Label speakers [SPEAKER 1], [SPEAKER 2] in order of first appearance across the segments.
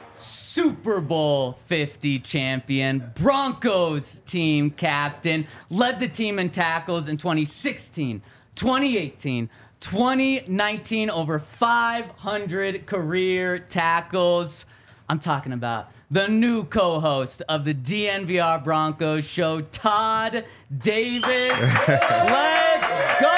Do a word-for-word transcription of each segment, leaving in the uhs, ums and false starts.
[SPEAKER 1] Super Bowl fifty champion, Broncos team captain, led the team in tackles in twenty sixteen, twenty eighteen, twenty nineteen, over five hundred career tackles. I'm talking about the new co-host of the D N V R Broncos show, Todd Davis. Let's go!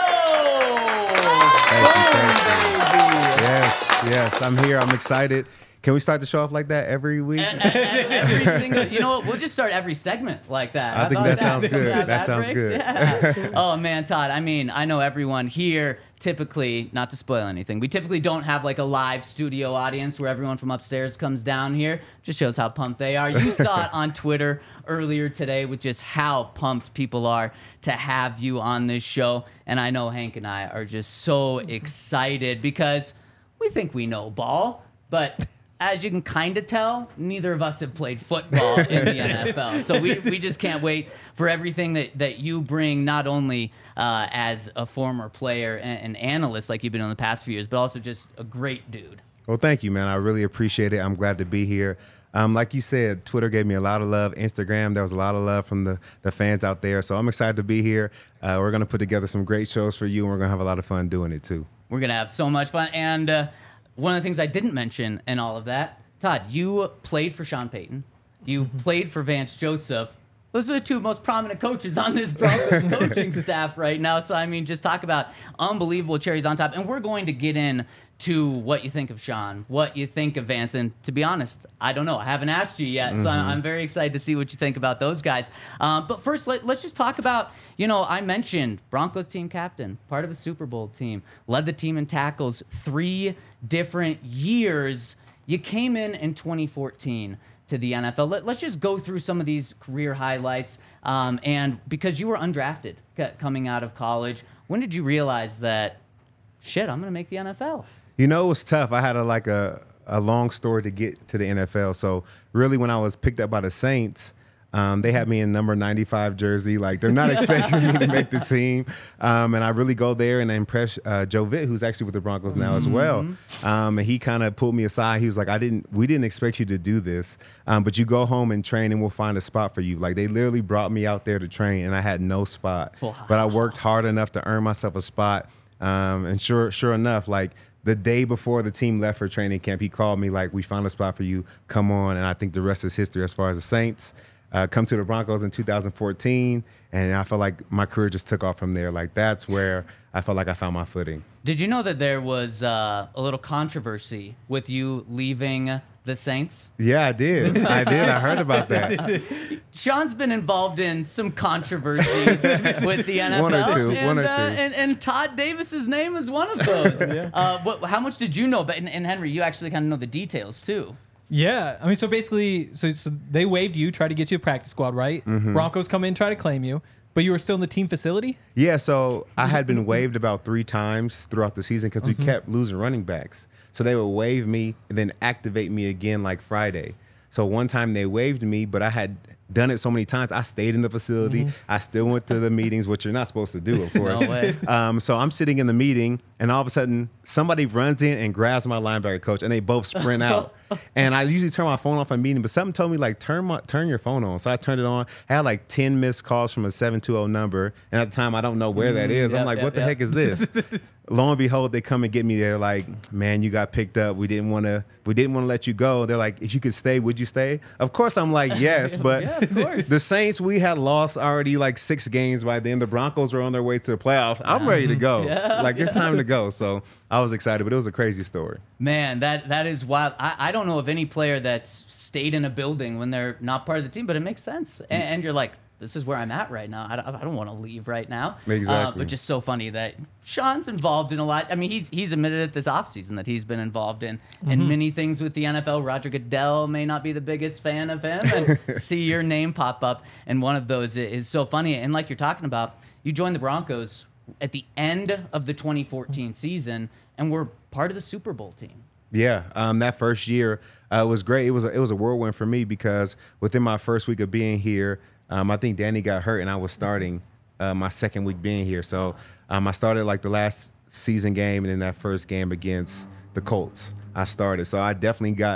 [SPEAKER 2] Thank you, thank you. Yes, yes, I'm here. I'm excited. Can we start the show off like that every week?
[SPEAKER 1] Every single, you know what? We'll just start every segment like that.
[SPEAKER 2] I
[SPEAKER 1] How
[SPEAKER 2] think
[SPEAKER 1] about
[SPEAKER 2] that sounds good.
[SPEAKER 1] Yeah,
[SPEAKER 2] That sounds
[SPEAKER 1] breaks?
[SPEAKER 2] good.
[SPEAKER 1] Yeah. Oh man, Todd. I mean, I know everyone here typically, not to spoil anything, we typically don't have like a live studio audience where everyone from upstairs comes down here. Just shows how pumped they are. You saw it on Twitter earlier today with just how pumped people are to have you on this show. And I know Hank and I are just so excited because we think we know ball, but as you can kind of tell, neither of us have played football in the N F L. So we, we just can't wait for everything that, that you bring, not only uh, as a former player and, and analyst like you've been in the past few years, but also just a great dude.
[SPEAKER 2] Well, thank you, man. I really appreciate it. I'm glad to be here. Um, like you said, Twitter gave me a lot of love. Instagram, there was a lot of love from the, the fans out there. So I'm excited to be here. Uh, we're going to put together some great shows for you, and we're going to have a lot of fun doing it, too.
[SPEAKER 1] We're going to have so much fun. And uh, one of the things I didn't mention in all of that, Todd, you played for Sean Payton. You mm-hmm. played for Vance Joseph. Those are the two most prominent coaches on this Broncos coaching staff right now. So, I mean, just talk about unbelievable cherries on top. And we're going to get in to what you think of Sean, what you think of Vance. And to be honest, I don't know. I haven't asked you yet. Mm-hmm. So I'm, I'm very excited to see what you think about those guys. Um, but first, let, let's just talk about, you know, I mentioned Broncos team captain, part of a Super Bowl team, led the team in tackles three different years. You came in in twenty fourteen to the N F L. Let, let's just go through some of these career highlights. Um, and because you were undrafted coming out of college, when did you realize that, shit, I'm going to make the N F L?
[SPEAKER 2] You know, it was tough. I had a, like a, a long story to get to the N F L. So really when I was picked up by the Saints, um, they had me in number ninety-five jersey. Like, they're not expecting me to make the team. Um, and I really go there and impress uh, Joe Vitt, who's actually with the Broncos now mm-hmm. as well. Um, and he kind of pulled me aside. He was like, I didn't, we didn't expect you to do this, um, but you go home and train and we'll find a spot for you. Like, they literally brought me out there to train and I had no spot. Wow. But I worked hard enough to earn myself a spot. Um, and sure, sure enough, like, the day before the team left for training camp, he called me like, we found a spot for you. Come on. And I think the rest is history as far as the Saints. Uh, come to the Broncos in two thousand fourteen, and I felt like my career just took off from there. Like, that's where I felt like I found my footing.
[SPEAKER 1] Did you know that there was uh, a little controversy with you leaving the Saints?
[SPEAKER 2] Yeah, I did. I did. I heard about that.
[SPEAKER 1] Sean's been involved in some controversies with the N F L.
[SPEAKER 2] One or two.
[SPEAKER 1] And,
[SPEAKER 2] one or two.
[SPEAKER 1] Uh, and, and Todd Davis's name is one of those. yeah. uh, what, how much did you know? But and, and Henry, you actually kind of know the details too.
[SPEAKER 3] Yeah, I mean, so basically, so, so they waived you, tried to get you a practice squad, right? Mm-hmm. Broncos come in, try to claim you, but you were still in the team facility?
[SPEAKER 2] Yeah, so I had been waived about three times throughout the season because mm-hmm. we kept losing running backs. So they would waive me and then activate me again like Friday. So one time they waived me, but I had done it so many times. I stayed in the facility. Mm-hmm. I still went to the meetings, which you're not supposed to do, of course.
[SPEAKER 1] No way.
[SPEAKER 2] Um, so I'm sitting in the meeting, and all of a sudden, somebody runs in and grabs my linebacker coach, and they both sprint out. And I usually turn my phone off in meeting, but something told me, like, turn my turn your phone on. So I turned it on. I had like ten missed calls from a seven two zero number, and at the time, I don't know where that is.
[SPEAKER 1] Yep,
[SPEAKER 2] I'm like,
[SPEAKER 1] yep,
[SPEAKER 2] what the
[SPEAKER 1] yep.
[SPEAKER 2] heck is this? Lo and behold, they come and get me. They're like, man, you got picked up. We didn't want to. We didn't want to let you go. They're like, if you could stay, would you stay? Of course, I'm like, yes. But
[SPEAKER 1] yeah, of course.
[SPEAKER 2] The Saints, we had lost already like six games by then. The Broncos were on their way to the playoffs. I'm ready to go.
[SPEAKER 1] Yeah,
[SPEAKER 2] like, it's
[SPEAKER 1] yeah.
[SPEAKER 2] time to go. So I was excited, but it was a crazy story.
[SPEAKER 1] Man, that that is wild. I, I don't know of any player that's stayed in a building when they're not part of the team, but it makes sense. And, and you're like, this is where I'm at right now. I don't, I don't want to leave right now.
[SPEAKER 2] Exactly.
[SPEAKER 1] Uh, but just so funny that Sean's involved in a lot. I mean, he's he's admitted it this offseason that he's been involved in, mm-hmm. in many things with the N F L. Roger Goodell may not be the biggest fan of him. And see your name pop up. And one of those is so funny. And like you're talking about, you joined the Broncos at the end of the twenty fourteen season and were part of the Super Bowl team.
[SPEAKER 2] Yeah, um, that first year uh, was great. It was a, it was a whirlwind for me because within my first week of being here, um, I think Danny got hurt and I was starting uh, my second week being here. So um, I started like the last season game and then that first game against the Colts, I started. So I definitely got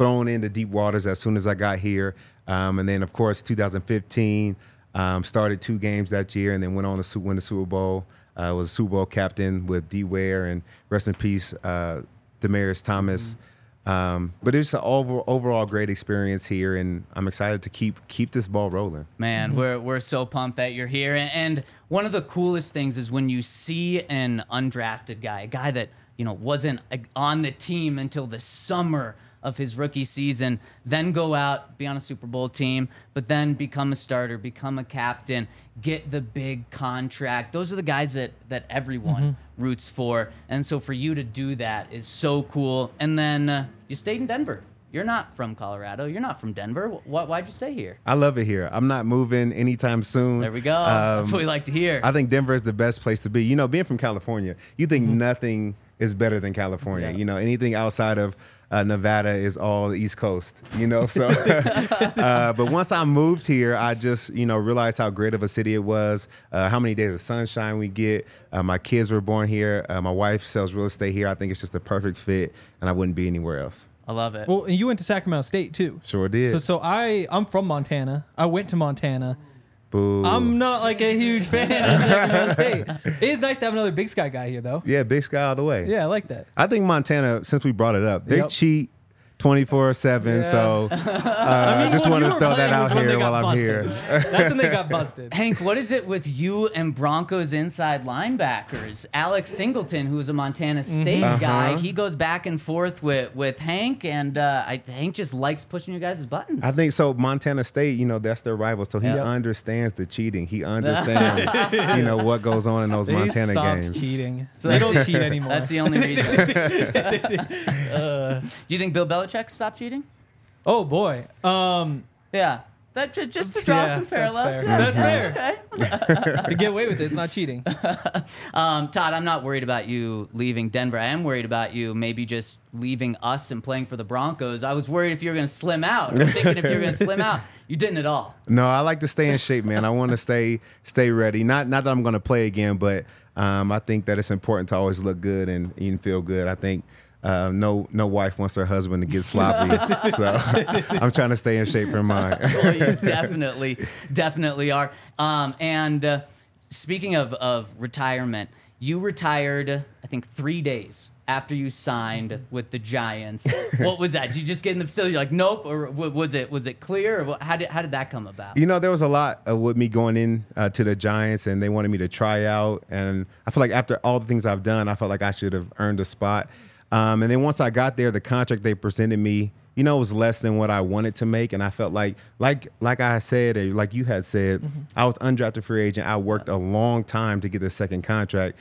[SPEAKER 2] thrown into deep waters as soon as I got here. Um, and then, of course, two thousand fifteen, um, started two games that year and then went on to su- win the Super Bowl. I uh, was a Super Bowl captain with D. Ware, and rest in peace, uh, Demaryius Thomas. Mm-hmm. Um, but it's an over, overall great experience here, and I'm excited to keep keep this ball rolling.
[SPEAKER 1] Man, mm-hmm. we're we're so pumped that you're here. And, and one of the coolest things is when you see an undrafted guy, a guy that you know wasn't on the team until the summer of his rookie season, then go out, be on a Super Bowl team, but then become a starter, become a captain, get the big contract. Those are the guys that that everyone mm-hmm. roots for. And so for you to do that is so cool. And then uh, you stayed in Denver. You're not from Colorado. You're not from Denver. Why, why'd you stay here?
[SPEAKER 2] I love it here. I'm not moving anytime soon.
[SPEAKER 1] There we go. Um, That's what we like to hear.
[SPEAKER 2] I think Denver is the best place to be. You know, being from California, you think mm-hmm. nothing is better than California. Yeah. You know, anything outside of Uh, Nevada is all the East Coast, you know. So, uh, but once I moved here, I just, you know, realized how great of a city it was, uh, how many days of sunshine we get. Uh, my kids were born here. Uh, my wife sells real estate here. I think it's just the perfect fit, and I wouldn't be anywhere else.
[SPEAKER 1] I love it.
[SPEAKER 3] Well, and you went to Sacramento State too.
[SPEAKER 2] Sure did.
[SPEAKER 3] So, so I, I'm from Montana. I went to Montana.
[SPEAKER 2] Boo.
[SPEAKER 3] I'm not like a huge fan of Sacramento State. It is nice to have another Big Sky guy here, though.
[SPEAKER 2] Yeah, Big Sky all the way.
[SPEAKER 3] Yeah, I like that.
[SPEAKER 2] I think Montana, since we brought it up, they
[SPEAKER 3] Yep.
[SPEAKER 2] cheat twenty-four seven.
[SPEAKER 3] Yeah.
[SPEAKER 2] So uh,
[SPEAKER 3] I mean,
[SPEAKER 2] just
[SPEAKER 3] when
[SPEAKER 2] wanted
[SPEAKER 3] you
[SPEAKER 2] to
[SPEAKER 3] were
[SPEAKER 2] throw that
[SPEAKER 3] playing
[SPEAKER 2] out
[SPEAKER 3] was when they
[SPEAKER 2] here
[SPEAKER 3] got
[SPEAKER 2] while I'm
[SPEAKER 3] busted.
[SPEAKER 2] here.
[SPEAKER 3] That's when they got busted.
[SPEAKER 1] Hank, what is it with you and Broncos inside linebackers? Alex Singleton, who is a Montana State
[SPEAKER 2] Mm-hmm.
[SPEAKER 1] guy,
[SPEAKER 2] Uh-huh.
[SPEAKER 1] he goes back and forth with, with Hank, and uh, I, Hank just likes pushing you guys' buttons.
[SPEAKER 2] I think so. Montana State, you know, that's their rival, so he
[SPEAKER 3] Yep.
[SPEAKER 2] understands the cheating. He understands, you know, what goes on in those
[SPEAKER 3] They
[SPEAKER 2] Montana
[SPEAKER 3] stopped
[SPEAKER 2] games.
[SPEAKER 3] cheating.
[SPEAKER 1] So
[SPEAKER 3] they
[SPEAKER 1] that's-
[SPEAKER 3] don't cheat anymore.
[SPEAKER 1] That's the only reason. uh, do you think Bill Belichick stopped cheating?
[SPEAKER 3] Oh boy. Um,
[SPEAKER 1] Yeah. That ju- just to draw
[SPEAKER 3] Yeah,
[SPEAKER 1] some
[SPEAKER 3] that's
[SPEAKER 1] parallels.
[SPEAKER 3] fair.
[SPEAKER 1] Yeah,
[SPEAKER 3] That's
[SPEAKER 1] okay,
[SPEAKER 3] fair.
[SPEAKER 1] Okay.
[SPEAKER 3] to get away with it, it's not cheating.
[SPEAKER 1] Um, Todd, I'm not worried about you leaving Denver. I am worried about you maybe just leaving us and playing for the Broncos. I was worried if you were going to slim out. I'm thinking if you were going to slim out. You didn't at all.
[SPEAKER 2] No, I like to stay in shape, man. I want to stay stay ready. Not not that I'm going to play again, but um, I think that it's important to always look good and, and feel good. I think uh, no no wife wants her husband to get sloppy, so I'm trying to stay in shape for mine.
[SPEAKER 1] Well, you definitely, definitely are. Um, and uh, speaking of, of retirement, you retired, I think, three days after you signed with the Giants. What was that? Did you just get in the facility? You're like, nope, or w- was it was it clear? Or what, how did how did that come about?
[SPEAKER 2] You know, there was a lot uh, with me going in uh, to the Giants, and they wanted me to try out. And I feel like after all the things I've done, I felt like I should have earned a spot. Um, and then once I got there, the contract they presented me, you know, was less than what I wanted to make. And I felt like, like, like I said, or like you had said, mm-hmm. I was undrafted free agent. I worked a long time to get the second contract.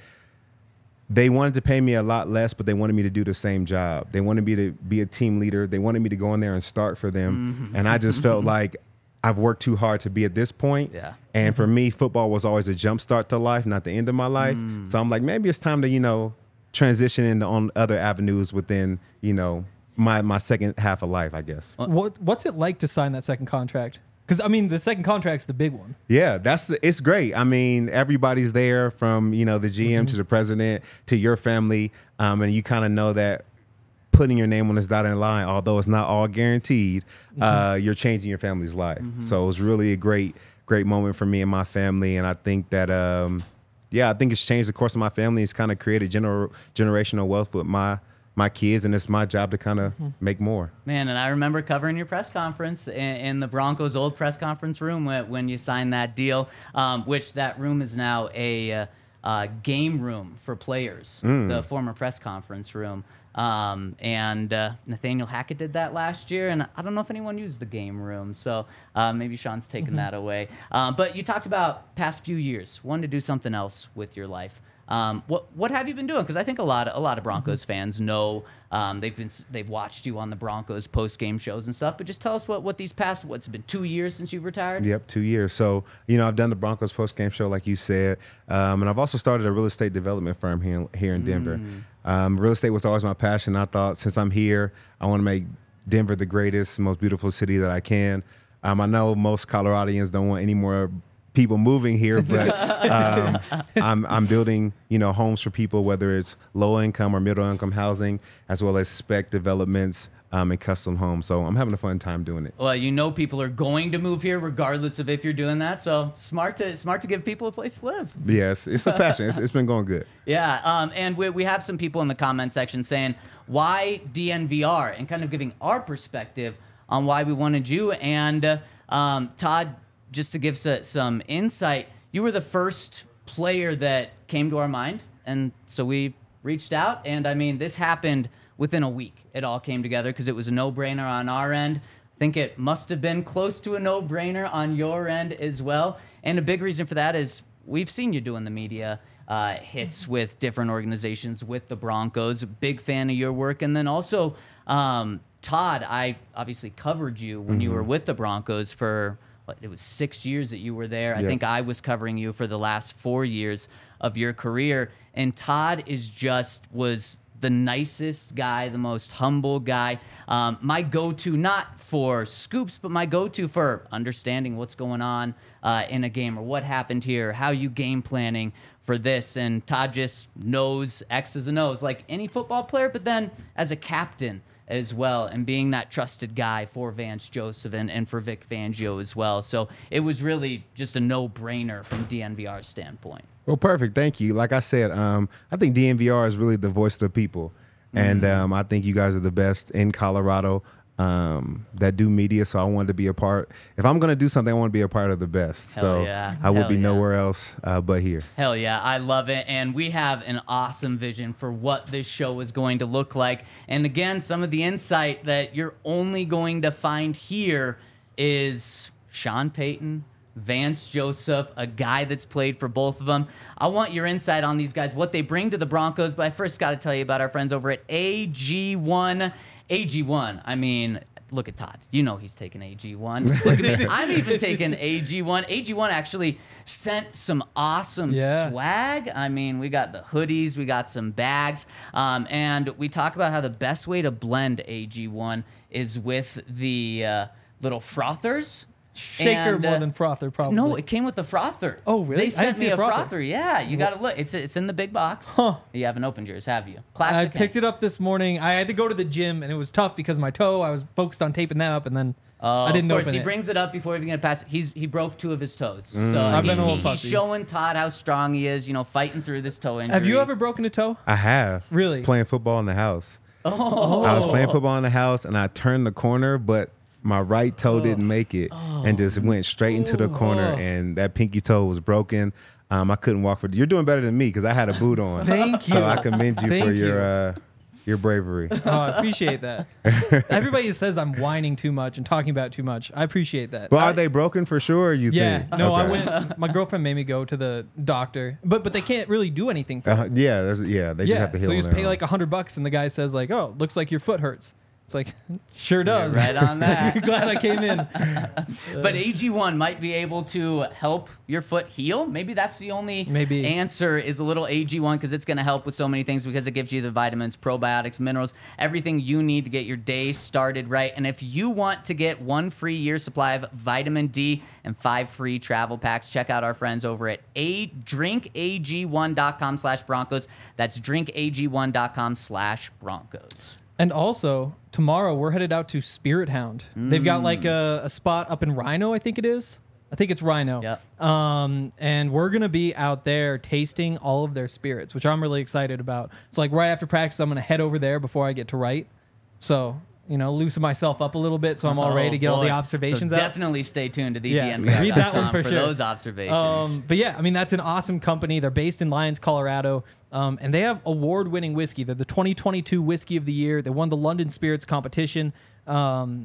[SPEAKER 2] They wanted to pay me a lot less, but they wanted me to do the same job. They wanted me to be a team leader. They wanted me to go in there and start for them. Mm-hmm. And I just felt like I've worked too hard to be at this point.
[SPEAKER 1] Yeah.
[SPEAKER 2] And for me, football was always a jump start to life, not the end of my life. Mm. So I'm like, maybe it's time to, you know, transition into on other avenues within, you know, my my second half of life, I guess.
[SPEAKER 3] What What's it like to sign that second contract? Because, I mean, the second contract's the big one.
[SPEAKER 2] Yeah, that's the, it's great. I mean, everybody's there from, you know, the G M mm-hmm. to the president to your family. Um, and you kind of know that putting your name on this dotted line, although it's not all guaranteed, mm-hmm. uh, you're changing your family's life. Mm-hmm. So it was really a great, great moment for me and my family. And I think that, um, yeah, I think it's changed the course of my family. It's kind of created gener- generational wealth with my my kids, and it's my job to kind of mm-hmm. make more.
[SPEAKER 1] Man, and I remember covering your press conference in, in the Broncos' old press conference room when, when you signed that deal, um, which that room is now a uh, uh, game room for players, mm. the former press conference room. Um, and uh, Nathaniel Hackett did that last year, and I don't know if anyone used the game room, so uh, maybe Sean's taken mm-hmm. that away. Um, but you talked about past few years, wanted to do something else with your life. Um, what what have you been doing? Because I think a lot of a lot of Broncos mm-hmm. fans know um, they've been they've watched you on the Broncos post game shows and stuff. But just tell us what, what these past what's it been two years since you've retired?
[SPEAKER 2] Yep, two years. So you know I've done the Broncos post game show like you said, um, and I've also started a real estate development firm here here in Denver. Mm. Um, real estate was always my passion. I thought since I'm here, I want to make Denver the greatest, most beautiful city that I can. Um, I know most Coloradians don't want any more people moving here, but um, I'm I'm building you know homes for people, whether it's low income or middle income housing, as well as spec developments um, and custom homes. So I'm having a fun time doing it.
[SPEAKER 1] Well, you know people are going to move here regardless of if you're doing that. So smart to smart to give people a place to live.
[SPEAKER 2] Yes, it's a passion. it's, it's been going good.
[SPEAKER 1] Yeah, um, and we, we have some people in the comment section saying, why D N V R? And kind of giving our perspective on why we wanted you. And uh, um, Todd, just to give s- some insight, you were the first player that came to our mind. And so we reached out. And I mean, this happened within a week. It all came together because it was a no-brainer on our end. I think it must have been close to a no-brainer on your end as well. And a big reason for that is we've seen you doing the media uh, hits with different organizations, with the Broncos. Big fan of your work. And then also, um, Todd, I obviously covered you when mm-hmm. you were with the Broncos for, what, it was six years that you were there. Yep. I think I was covering you for the last four years of your career. And Todd is just, was the nicest guy, the most humble guy. Um, my go-to, not for scoops, but my go-to for understanding what's going on uh, in a game or what happened here, how you game planning for this. And Todd just knows X's and O's like any football player, but then as a captain as well, and being that trusted guy for Vance Joseph and, and for Vic Fangio as well. So it was really just a no-brainer from D N V R's standpoint.
[SPEAKER 2] Well, perfect. Thank you. Like I said, um, I think D N V R is really the voice of the people. And um, I think you guys are the best in Colorado um, that do media. So I wanted to be a part. If I'm going to do something, I want to be a part of the best.
[SPEAKER 1] Hell
[SPEAKER 2] so
[SPEAKER 1] yeah.
[SPEAKER 2] I would
[SPEAKER 1] Hell
[SPEAKER 2] be
[SPEAKER 1] yeah.
[SPEAKER 2] nowhere else uh, but here.
[SPEAKER 1] Hell yeah. I love it. And we have an awesome vision for what this show is going to look like. And again, some of the insight that you're only going to find here is Sean Payton, Vance Joseph, a guy that's played for both of them. I want your insight on these guys, what they bring to the Broncos, but I first got to tell you about our friends over at A G one. A G one, I mean, look at Todd. You know he's taking A G one. Look at me. I'm even taking A G one. A G one actually sent some awesome
[SPEAKER 3] Yeah.
[SPEAKER 1] swag. I mean, we got the hoodies, we got some bags, um, and we talk about how the best way to blend A G one is with the uh, little frothers.
[SPEAKER 3] Shaker
[SPEAKER 1] And,
[SPEAKER 3] more
[SPEAKER 1] uh,
[SPEAKER 3] than frother, probably.
[SPEAKER 1] No, it came with the frother.
[SPEAKER 3] Oh, really? I
[SPEAKER 1] They
[SPEAKER 3] didn't
[SPEAKER 1] sent
[SPEAKER 3] see
[SPEAKER 1] me
[SPEAKER 3] a
[SPEAKER 1] a
[SPEAKER 3] frother.
[SPEAKER 1] frother. Yeah, you got to look. It's it's in the big box.
[SPEAKER 3] Huh.
[SPEAKER 1] You haven't opened yours, have you?
[SPEAKER 3] I
[SPEAKER 1] Classic.
[SPEAKER 3] picked it up this morning. I had to go to the gym, and it was tough because of my toe. I was focused on taping that up, and then
[SPEAKER 1] Oh,
[SPEAKER 3] I didn't
[SPEAKER 1] of course,
[SPEAKER 3] open
[SPEAKER 1] he
[SPEAKER 3] it.
[SPEAKER 1] brings it up before even gonna pass it. He's he broke two of his toes, so
[SPEAKER 3] I've
[SPEAKER 1] he-
[SPEAKER 3] been a little
[SPEAKER 1] he- he's
[SPEAKER 3] fussy.
[SPEAKER 1] showing Todd how strong he is. You know, fighting through this toe injury.
[SPEAKER 3] Have you ever broken a toe?
[SPEAKER 2] I have.
[SPEAKER 3] Really?
[SPEAKER 2] Playing football in the house.
[SPEAKER 1] Oh,
[SPEAKER 2] I was playing football in the house, and I turned the corner, but my right toe didn't make it and just went straight into the corner,
[SPEAKER 3] Oh.
[SPEAKER 2] and that pinky toe was broken. Um, I couldn't walk for. You're doing better than me because I had a boot on.
[SPEAKER 3] Thank you.
[SPEAKER 2] So I commend you
[SPEAKER 3] Thank
[SPEAKER 2] for your
[SPEAKER 3] you.
[SPEAKER 2] uh, your bravery.
[SPEAKER 3] Oh, I appreciate that. Everybody says I'm whining too much and talking about too much. I appreciate that.
[SPEAKER 2] But
[SPEAKER 3] I-
[SPEAKER 2] are they broken for sure? Or you
[SPEAKER 3] Yeah.
[SPEAKER 2] think?
[SPEAKER 3] No, I
[SPEAKER 2] Okay.
[SPEAKER 3] went. My girlfriend made me go to the doctor, but but they can't really do anything for
[SPEAKER 2] Uh,
[SPEAKER 3] it.
[SPEAKER 2] yeah, there's yeah. They
[SPEAKER 3] Yeah.
[SPEAKER 2] just have to heal.
[SPEAKER 3] So you
[SPEAKER 2] on
[SPEAKER 3] just
[SPEAKER 2] their
[SPEAKER 3] pay
[SPEAKER 2] own.
[SPEAKER 3] like a hundred bucks, and the guy says like, "Oh, looks like your foot hurts." It's like, sure does.
[SPEAKER 1] right on that.
[SPEAKER 3] Glad I came in.
[SPEAKER 1] But A G one might be able to help your foot heal. Maybe that's the only
[SPEAKER 3] Maybe.
[SPEAKER 1] answer is a little A G one because it's going to help with so many things because it gives you the vitamins, probiotics, minerals, everything you need to get your day started right. And if you want to get one free year supply of vitamin D and five free travel packs, check out our friends over at a drink A G one dot com slash Broncos. That's drink A G one dot com slash Broncos.
[SPEAKER 3] And also, tomorrow we're headed out to Spirit Hound. They've got like a, a spot up in Rhino, I think it is. I think it's Rhino.
[SPEAKER 1] Yep.
[SPEAKER 3] Um, and we're going to be out there tasting all of their spirits, which I'm really excited about. So, like, right after practice, I'm going to head over there before I get to write. So, you know, loosen myself up a little bit so I'm all ready to get all the
[SPEAKER 1] boy.
[SPEAKER 3] observations
[SPEAKER 1] so
[SPEAKER 3] out.
[SPEAKER 1] Definitely stay tuned to the
[SPEAKER 3] Yeah,
[SPEAKER 1] D N V R
[SPEAKER 3] read that one for
[SPEAKER 1] for
[SPEAKER 3] sure.
[SPEAKER 1] those observations.
[SPEAKER 3] Um, but yeah, I mean, that's an awesome company. They're based in Lyons, Colorado, um, and they have award-winning whiskey. They're the twenty twenty-two Whiskey of the Year. They won the London Spirits competition. Um,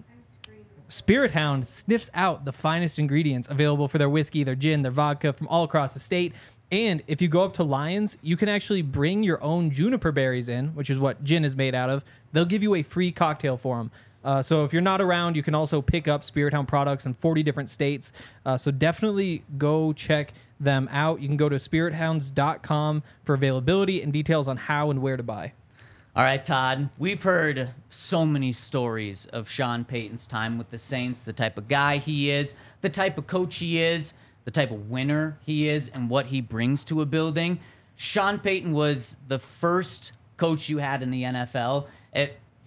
[SPEAKER 3] Spirit Hound sniffs out the finest ingredients available for their whiskey, their gin, their vodka from all across the state. And if you go up to Lyons, you can actually bring your own juniper berries in, which is what gin is made out of. They'll give you a free cocktail for them. Uh, so if you're not around, you can also pick up Spirit Hound products in forty different states. Uh, so definitely go check them out. You can go to spirit hounds dot com for availability and details on how and where to buy.
[SPEAKER 1] All right, Todd, we've heard so many stories of Sean Payton's time with the Saints, the type of guy he is, the type of coach he is, the type of winner he is, and what he brings to a building. Sean Payton was the first coach you had in the N F L. It,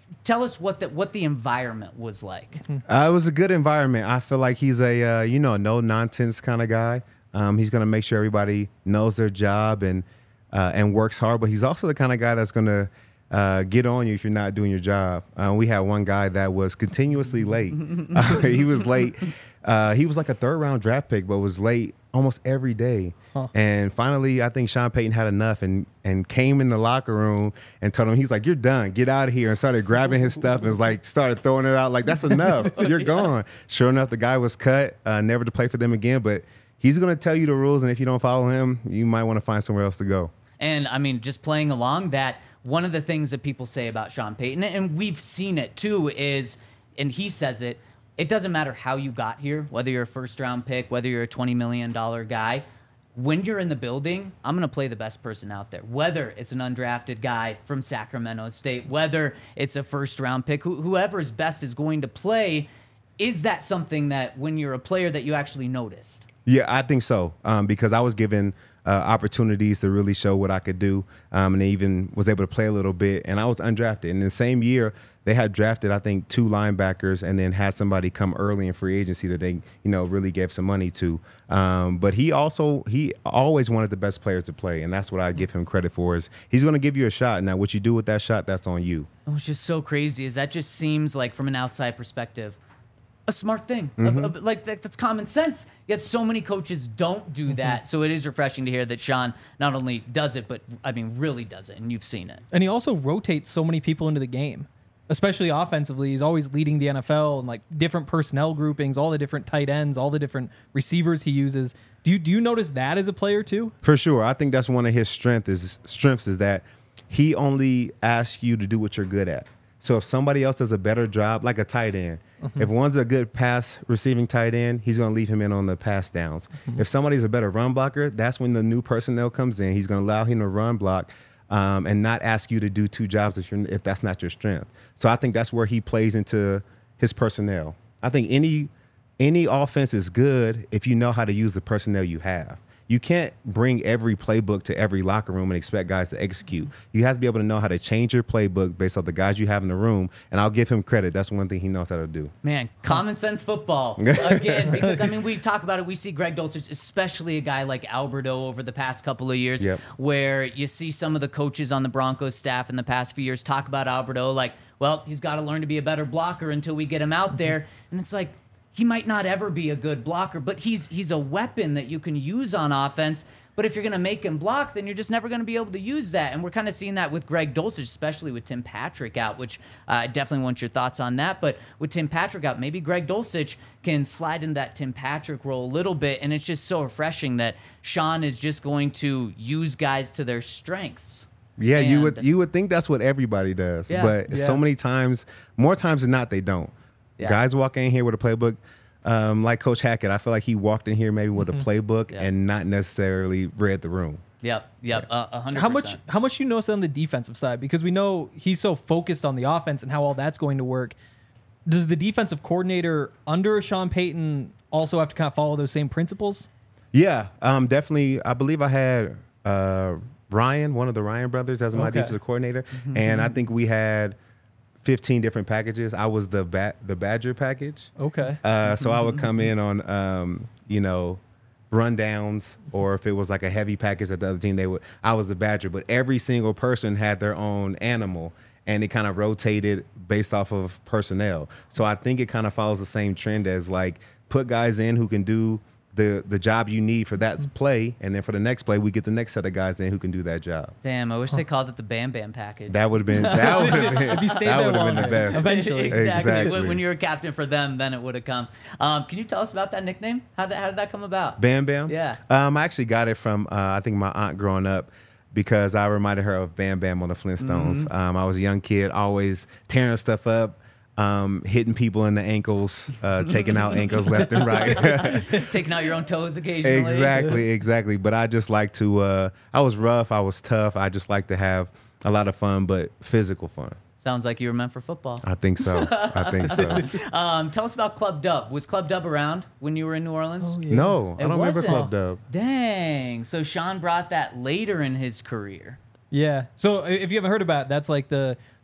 [SPEAKER 1] tell us what the what the environment was like.
[SPEAKER 2] Uh, it was a good environment. I feel like he's a uh, you know no nonsense kind of guy. Um, he's gonna make sure everybody knows their job and uh, and works hard. But he's also the kind of guy that's gonna uh, get on you if you're not doing your job. Uh, we had one guy that was continuously late. uh, he was late. Uh, he was like a third round draft pick, but was late almost every day. Huh. And finally, I think Sean Payton had enough and and came in the locker room and told him, he's like, "You're done. Get out of here." And started grabbing his stuff and was like, started throwing it out like, "That's enough. You're gone." Sure enough, the guy was cut, uh, never to play for them again. But he's going to tell you the rules, and if you don't follow him, you might want to find somewhere else to go.
[SPEAKER 1] And I mean, just playing along that, one of the things that people say about Sean Payton, and we've seen it too, is, and he says it, it doesn't matter how you got here, whether you're a first round pick, whether you're a twenty million dollars guy. When you're in the building, I'm going to play the best person out there, whether it's an undrafted guy from Sacramento State, whether it's a first round pick, wh- whoever's best is going to play. Is that something that when you're a player that you actually noticed?
[SPEAKER 2] Yeah, I think so, um, because I was given uh, opportunities to really show what I could do, um, and even was able to play a little bit, and I was undrafted. And in the same year, they had drafted, I think, two linebackers and then had somebody come early in free agency that they, you know, really gave some money to. Um, but he also, he always wanted the best players to play, and that's what I give him credit for is he's going to give you a shot. Now, what you do with that shot, that's on you.
[SPEAKER 1] What's just so crazy is that just seems like, from an outside perspective, a smart thing.
[SPEAKER 2] Mm-hmm.
[SPEAKER 1] A- a- like that, that's common sense. Yet so many coaches don't do that. So it is refreshing to hear that Sean not only does it, but I mean really does it, and you've seen it.
[SPEAKER 3] And he also rotates so many people into the game, especially offensively. He's always leading the N F L and like different personnel groupings, all the different tight ends, all the different receivers he uses. Do you do you notice that as a player too?
[SPEAKER 2] For sure. I think that's one of his strengths is strengths is that he only asks you to do what you're good at. So if somebody else does a better job, like a tight end, mm-hmm. if one's a good pass receiving tight end, he's going to leave him in on the pass downs. Mm-hmm. If somebody's a better run blocker, that's when the new personnel comes in. He's going to allow him to run block um, and not ask you to do two jobs if you're if that's not your strength. So I think that's where he plays into his personnel. I think any any offense is good if you know how to use the personnel you have. You can't bring every playbook to every locker room and expect guys to execute. You have to be able to know how to change your playbook based off the guys you have in the room. And I'll give him credit. That's one thing he knows how to do.
[SPEAKER 1] Man, common sense football again. Because I mean, we talk about it. We see Greg Dulcich, especially a guy like Alberto over the past couple of years,
[SPEAKER 2] yep.
[SPEAKER 1] where you see some of the coaches on the Broncos staff in the past few years talk about Alberto like, well, he's got to learn to be a better blocker until we get him out there. And it's like, he might not ever be a good blocker, but he's he's a weapon that you can use on offense. But if you're going to make him block, then you're just never going to be able to use that. And we're kind of seeing that with Greg Dulcich, especially with Tim Patrick out, which uh, I definitely want your thoughts on that. But with Tim Patrick out, maybe Greg Dulcich can slide into that Tim Patrick role a little bit. And it's just so refreshing that Sean is just going to use guys to their strengths.
[SPEAKER 2] Yeah,
[SPEAKER 1] and
[SPEAKER 2] you would you would think that's what everybody does.
[SPEAKER 1] Yeah,
[SPEAKER 2] but
[SPEAKER 3] yeah.
[SPEAKER 2] so many times, more times than not, they don't.
[SPEAKER 1] Yeah.
[SPEAKER 2] Guys walk in here with a playbook. Um, like Coach Hackett, I feel like he walked in here maybe with
[SPEAKER 3] Mm-hmm.
[SPEAKER 2] a playbook
[SPEAKER 1] Yeah.
[SPEAKER 2] and not necessarily read the room.
[SPEAKER 1] Yep, yep, uh, one hundred percent.
[SPEAKER 3] How much how much do you notice on the defensive side? Because we know he's so focused on the offense and how all that's going to work. Does the defensive coordinator under Sean Payton also have to kind of follow those same principles?
[SPEAKER 2] Yeah, um, definitely. I believe I had uh, Ryan, one of the Ryan brothers, as my
[SPEAKER 3] Okay.
[SPEAKER 2] defensive coordinator, and I think we had fifteen different packages. I was the ba- the Badger package.
[SPEAKER 3] Okay.
[SPEAKER 2] Uh, so I would come in on, um, you know, rundowns, or if it was like a heavy package that the other team, they would. I was the Badger, but every single person had their own animal, and it kind of rotated based off of personnel. So I think it kind of follows the same trend as like put guys in who can do the the job you need for that play, and then for the next play, we get the next set of guys in who can do that job.
[SPEAKER 1] Damn, I wish they called it the Bam Bam package.
[SPEAKER 2] That would have been that would have been
[SPEAKER 3] If you stayed
[SPEAKER 2] that
[SPEAKER 3] there
[SPEAKER 2] would have been the
[SPEAKER 3] longer,
[SPEAKER 2] best.
[SPEAKER 3] eventually.
[SPEAKER 1] exactly.
[SPEAKER 2] Exactly.
[SPEAKER 1] When, when you were captain for them, then it would have come. Um, can you tell us about that nickname? How did, how did that come about?
[SPEAKER 2] Bam Bam?
[SPEAKER 1] Yeah.
[SPEAKER 2] Um, I actually got it from, uh, I think, my aunt growing up because I reminded her of Bam Bam on the Flintstones.
[SPEAKER 1] Mm-hmm.
[SPEAKER 2] Um, I was a young kid, always tearing stuff up, um, hitting people in the ankles, uh, taking out ankles left and right.
[SPEAKER 1] Taking out your own toes occasionally.
[SPEAKER 2] Exactly, exactly. But I just like to, uh, I was rough, I was tough. I just like to have a lot of fun, but physical fun.
[SPEAKER 1] Sounds like you were meant for football.
[SPEAKER 2] I think so. I think so.
[SPEAKER 1] Um, tell us about Club Dub. Was Club Dub around when you were in New Orleans?
[SPEAKER 3] Oh, yeah.
[SPEAKER 2] No, I
[SPEAKER 1] It
[SPEAKER 2] don't remember
[SPEAKER 1] wasn't.
[SPEAKER 2] Club Dub.
[SPEAKER 1] Dang. So Sean brought that later in his career.
[SPEAKER 3] Yeah. So if you haven't heard about it, that's like the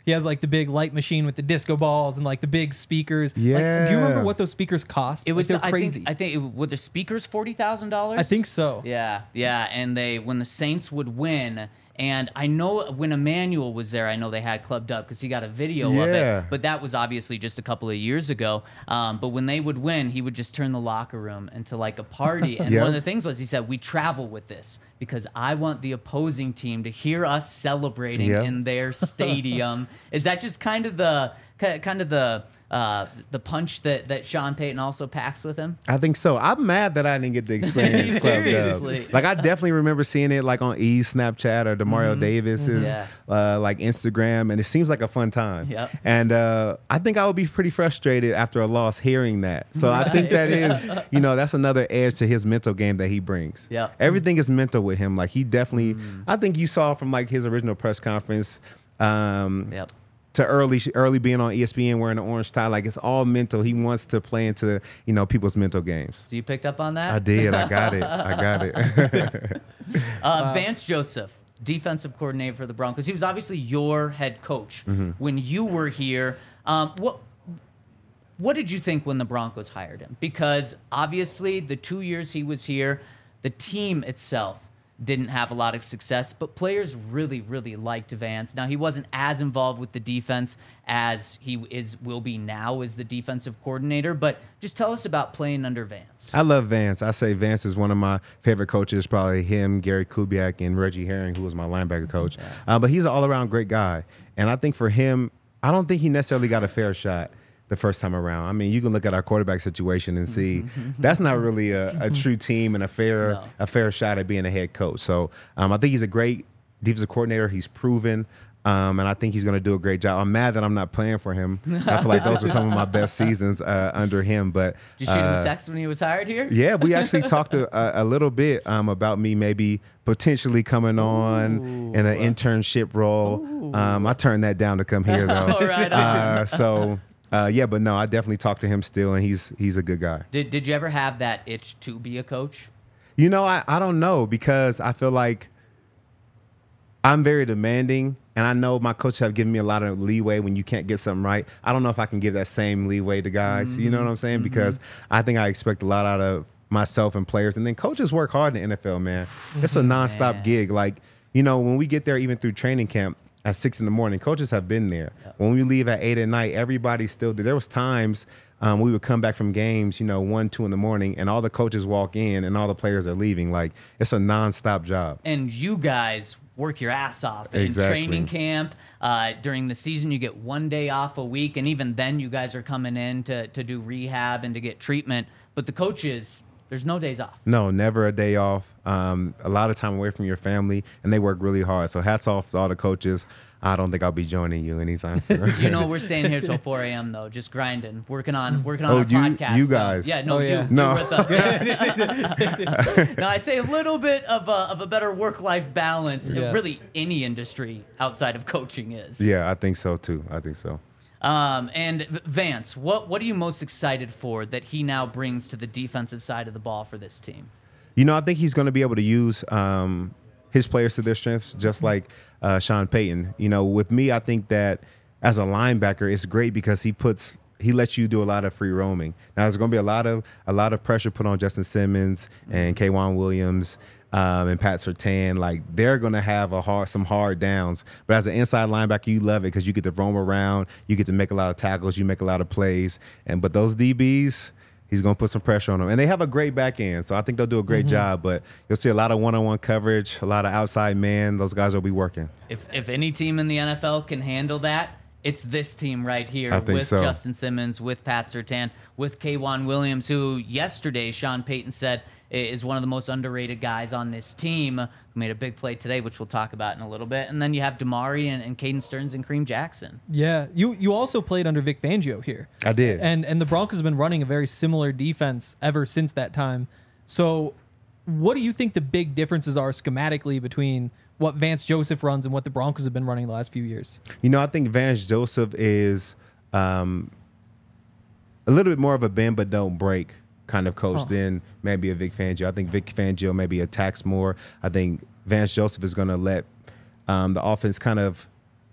[SPEAKER 3] He has like the big light machine with the disco balls and like the big speakers. Like, do you remember
[SPEAKER 2] Yeah.
[SPEAKER 3] what those speakers cost?
[SPEAKER 1] It was
[SPEAKER 3] like, they're
[SPEAKER 1] I
[SPEAKER 3] crazy.
[SPEAKER 1] think I think it, were the speakers forty thousand dollars.
[SPEAKER 3] I think so.
[SPEAKER 1] Yeah, yeah, and they when the Saints would win, and I know when Emmanuel was there, I know they had clubbed up because he got a video of
[SPEAKER 2] Yeah.
[SPEAKER 1] it. But that was obviously just a couple of years ago. Um, but when they would win, he would just turn the locker room into like a party. And
[SPEAKER 2] Yep.
[SPEAKER 1] one of the things was he said, "We travel with this because I want the opposing team to hear us celebrating
[SPEAKER 2] Yep.
[SPEAKER 1] in their stadium." Is that just kind of the ki- kind of the uh, the punch that that Sean Payton also packs with him?
[SPEAKER 2] I think so. I'm mad that I didn't get the experience. Club Dub.
[SPEAKER 1] Seriously.
[SPEAKER 2] Like I definitely remember seeing it like on E's Snapchat or Demario Davis's
[SPEAKER 1] Yeah.
[SPEAKER 2] uh, like Instagram, and it seems like a fun time.
[SPEAKER 1] Yep.
[SPEAKER 2] And uh, I think I would be pretty frustrated after a loss hearing that. So I think that is, you know, that's another edge to his mental game that he brings.
[SPEAKER 1] Yep.
[SPEAKER 2] Everything is mental with him. Like he definitely, I think you saw from like his original press conference. Um,
[SPEAKER 1] Yep.
[SPEAKER 2] To early, early being on E S P N wearing an orange tie, like it's all mental. He wants to play into, you know, people's mental games.
[SPEAKER 1] So you picked up on that?
[SPEAKER 2] I did. I got it. I got it.
[SPEAKER 1] Uh, Vance Joseph, defensive coordinator for the Broncos. He was obviously your head coach when you were here. Um, what what did you think when the Broncos hired him? Because obviously the two years he was here, the team itself didn't have a lot of success, but players really, really liked Vance. Now, he wasn't as involved with the defense as he is will be now as the defensive coordinator, but just tell us about playing under Vance.
[SPEAKER 2] I love Vance. I say Vance is one of my favorite coaches, probably him, Gary Kubiak, and Reggie Herring, who was my linebacker coach. Uh, but he's an all-around great guy. And I think for him, I don't think he necessarily got a fair shot the first time around. I mean, you can look at our quarterback situation and see that's not really a, a true team and a fair
[SPEAKER 1] No.
[SPEAKER 2] a fair shot at being a head coach. So um, I think he's a great defensive coordinator. He's proven. Um, and I think he's going to do a great job. I'm mad that I'm not playing for him. I feel like those were some of my best seasons uh, under him. But
[SPEAKER 1] Did you shoot him
[SPEAKER 2] uh,
[SPEAKER 1] a text when he was hired here?
[SPEAKER 2] yeah, we actually talked a, a, a little bit um, about me maybe potentially coming on in an internship role. Um, I turned that down to come here though.
[SPEAKER 1] All right.
[SPEAKER 2] uh, so uh, yeah, but no, I definitely talk to him still, and he's he's a good guy.
[SPEAKER 1] Did Did you ever have that itch to be a coach?
[SPEAKER 2] You know, I, I don't know because I feel like I'm very demanding, and I know my coaches have given me a lot of leeway when you can't get something right. I don't know if I can give that same leeway to guys. Mm-hmm. You know what I'm saying? Because I think I expect a lot out of myself and players. And then coaches work hard in the N F L, man. It's a nonstop
[SPEAKER 1] Man.
[SPEAKER 2] gig. Like, you know, when we get there, even through training camp at six in the morning, coaches have been there. Yep. When we leave at eight at night, everybody's still there. There was times um, we would come back from games, you know, one, two in the morning, and all the coaches walk in and all the players are leaving. Like, it's a nonstop job.
[SPEAKER 1] And you guys work your ass off in
[SPEAKER 2] Exactly.
[SPEAKER 1] training camp. Uh, during the season, you get one day off a week, and even then, you guys are coming in to to do rehab and to get treatment. But the coaches, there's no days off.
[SPEAKER 2] No, never a day off. Um, a lot of time away from your family, and they work really hard. So hats off to all the coaches. I don't think I'll be joining you anytime soon.
[SPEAKER 1] You know, we're staying here till four a.m. though, just grinding, working on working on
[SPEAKER 2] Oh,
[SPEAKER 1] our
[SPEAKER 2] you-
[SPEAKER 1] podcast.
[SPEAKER 2] you
[SPEAKER 1] Phil.
[SPEAKER 2] guys.
[SPEAKER 1] Yeah, no,
[SPEAKER 3] Oh, yeah.
[SPEAKER 1] you,
[SPEAKER 2] No.
[SPEAKER 1] you're with us. Yeah. No, I'd say a little bit of a, of a better work-life balance.
[SPEAKER 3] Yes.
[SPEAKER 1] Really, any industry outside of coaching is.
[SPEAKER 2] Yeah, I think so too. I think so.
[SPEAKER 1] Um, and V- Vance, what what are you most excited for that he now brings to the defensive side of the ball for this team?
[SPEAKER 2] You know, I think he's going to be able to use um, his players to their strengths, just like uh, Sean Payton. You know, with me, I think that as a linebacker, it's great because he puts he lets you do a lot of free roaming. Now, there's going to be a lot of a lot of pressure put on Justin Simmons and K'Wan Williams. Um, and Pat Surtain, like they're gonna have a hard, some hard downs. But as an inside linebacker, you love it because you get to roam around, you get to make a lot of tackles, you make a lot of plays. And but those D Bs, he's gonna put some pressure on them, and they have a great back end, so I think they'll do a great
[SPEAKER 1] Mm-hmm.
[SPEAKER 2] job. But you'll see a lot of one-on-one coverage, a lot of outside man. Those guys will be working.
[SPEAKER 1] If if any team in the N F L can handle that, it's this team right here
[SPEAKER 2] I think
[SPEAKER 1] with
[SPEAKER 2] so.
[SPEAKER 1] Justin Simmons, with Pat Surtain, with K'Wan Williams, who yesterday Sean Payton said is one of the most underrated guys on this team, who made a big play today, which we'll talk about in a little bit. And then you have Damari and, and Caden Stearns and Kareem Jackson.
[SPEAKER 3] Yeah, you you also played under Vic Fangio here.
[SPEAKER 2] I did.
[SPEAKER 3] And and the Broncos have been running a very similar defense ever since that time. So what do you think the big differences are schematically between what Vance Joseph runs and what the Broncos have been running the last few years?
[SPEAKER 2] You know, I think Vance Joseph is um, a little bit more of a bend but don't break kind of coach
[SPEAKER 3] Huh.
[SPEAKER 2] than maybe a Vic Fangio. I think Vic Fangio maybe attacks more. I think Vance Joseph is going to let um, the offense kind of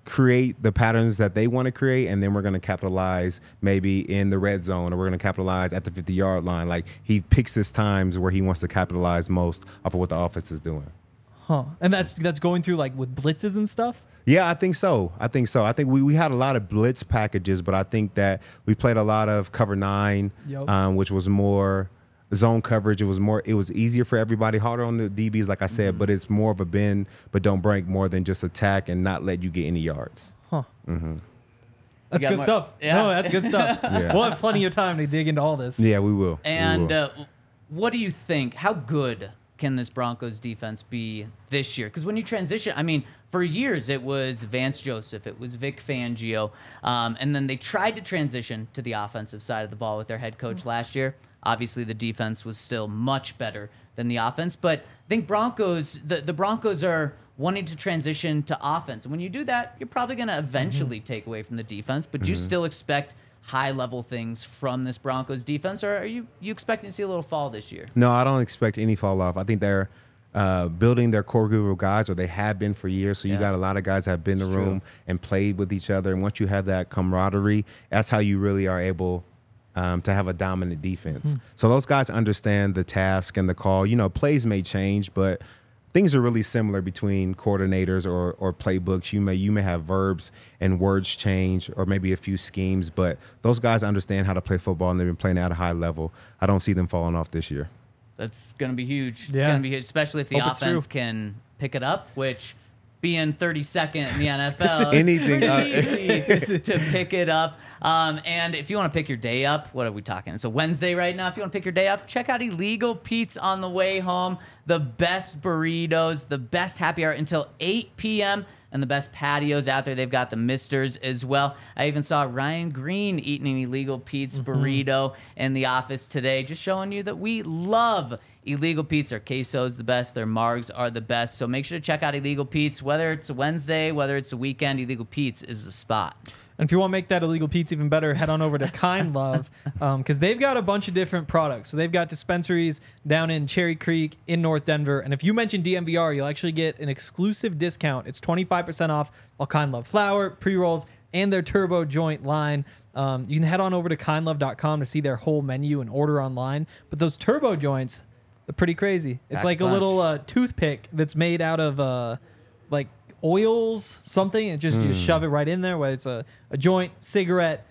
[SPEAKER 2] create the patterns that they want to create, and then we're going to capitalize maybe in the red zone, or we're going to capitalize at the fifty-yard line. Like, he picks his times where he wants to capitalize most off of what the offense is doing.
[SPEAKER 3] Huh. And that's that's going through like with blitzes and stuff?
[SPEAKER 2] Yeah, I think so. I think so. I think we, we had a lot of blitz packages, but I think that we played a lot of cover nine,
[SPEAKER 3] Yep.
[SPEAKER 2] um, which was more zone coverage. It was more. It was easier for everybody, harder on the D Bs, like I said,
[SPEAKER 3] Mm-hmm.
[SPEAKER 2] but it's more of a bend, but don't break, more than just attack and not let you get any yards.
[SPEAKER 3] Huh.
[SPEAKER 2] Mm-hmm.
[SPEAKER 3] That's
[SPEAKER 1] got
[SPEAKER 3] good
[SPEAKER 1] more-
[SPEAKER 3] stuff.
[SPEAKER 1] Yeah.
[SPEAKER 3] No, that's good stuff.
[SPEAKER 2] Yeah.
[SPEAKER 3] We'll have plenty of time to dig into all this.
[SPEAKER 2] Yeah, we will. We
[SPEAKER 1] And
[SPEAKER 2] will.
[SPEAKER 1] uh, what do you think? How good can this Broncos defense be this year? Because when you transition, I mean, for years it was Vance Joseph, it was Vic Fangio, um, and then they tried to transition to the offensive side of the ball with their head coach last year. Obviously, the defense was still much better than the offense, but I think Broncos, the, the Broncos are wanting to transition to offense. And when you do that, you're probably going to eventually take away from the defense, but you still expect high-level things from this Broncos defense, or are you, you expecting to see a little fall this year?
[SPEAKER 2] No, I don't expect any fall off. I think they're uh, building their core group of guys, or they have been for years. So you
[SPEAKER 1] Yeah.
[SPEAKER 2] got a lot of guys that have been in
[SPEAKER 1] It's
[SPEAKER 2] the
[SPEAKER 1] true.
[SPEAKER 2] room and played with each other. And once you have that camaraderie, that's how you really are able um, to have a dominant defense. So those guys understand the task and the call. You know, plays may change, but things are really similar between coordinators or, or playbooks. You may you may have verbs and words change, or maybe a few schemes, but those guys understand how to play football, and they've been playing at a high level. I don't see them falling off this year.
[SPEAKER 1] That's going to be huge. It's
[SPEAKER 3] Yeah.
[SPEAKER 1] going to be huge, especially if the
[SPEAKER 3] Hope it's true.
[SPEAKER 1] offense can pick it up, which being thirty-second in the N F L, it's
[SPEAKER 2] Anything,
[SPEAKER 1] pretty
[SPEAKER 2] uh,
[SPEAKER 1] easy to pick it up. Um, and if you want to pick your day up, what are we talking? It's a Wednesday right now. If you want to pick your day up, check out Illegal Pete's on the way home. The best burritos, the best happy hour until eight p.m., and the best patios out there. They've got the Misters as well. I even saw Ryan Green eating an Illegal Pete's burrito in the office today, just showing you that we love Illegal Pete's. Their queso's the best. Their margs are the best. So make sure to check out Illegal Pete's. Whether it's a Wednesday, whether it's a weekend, Illegal Pete's is the spot.
[SPEAKER 3] And if you want to make that Illegal Pete's even better, head on over to Kind Love, because they've got a bunch of different products. So they've got dispensaries down in Cherry Creek in North Denver. And if you mention D M V R, you'll actually get an exclusive discount. It's twenty-five percent off all Kind Love flour, pre-rolls, and their turbo joint line. Um, you can head on over to kind love dot com to see their whole menu and order online. But those turbo joints, they're pretty crazy. It's
[SPEAKER 1] Packed
[SPEAKER 3] like a
[SPEAKER 1] bunch.
[SPEAKER 3] little uh, toothpick that's made out of uh, like oils, something, and just you just shove it right in there, whether it's a, a joint, cigarette,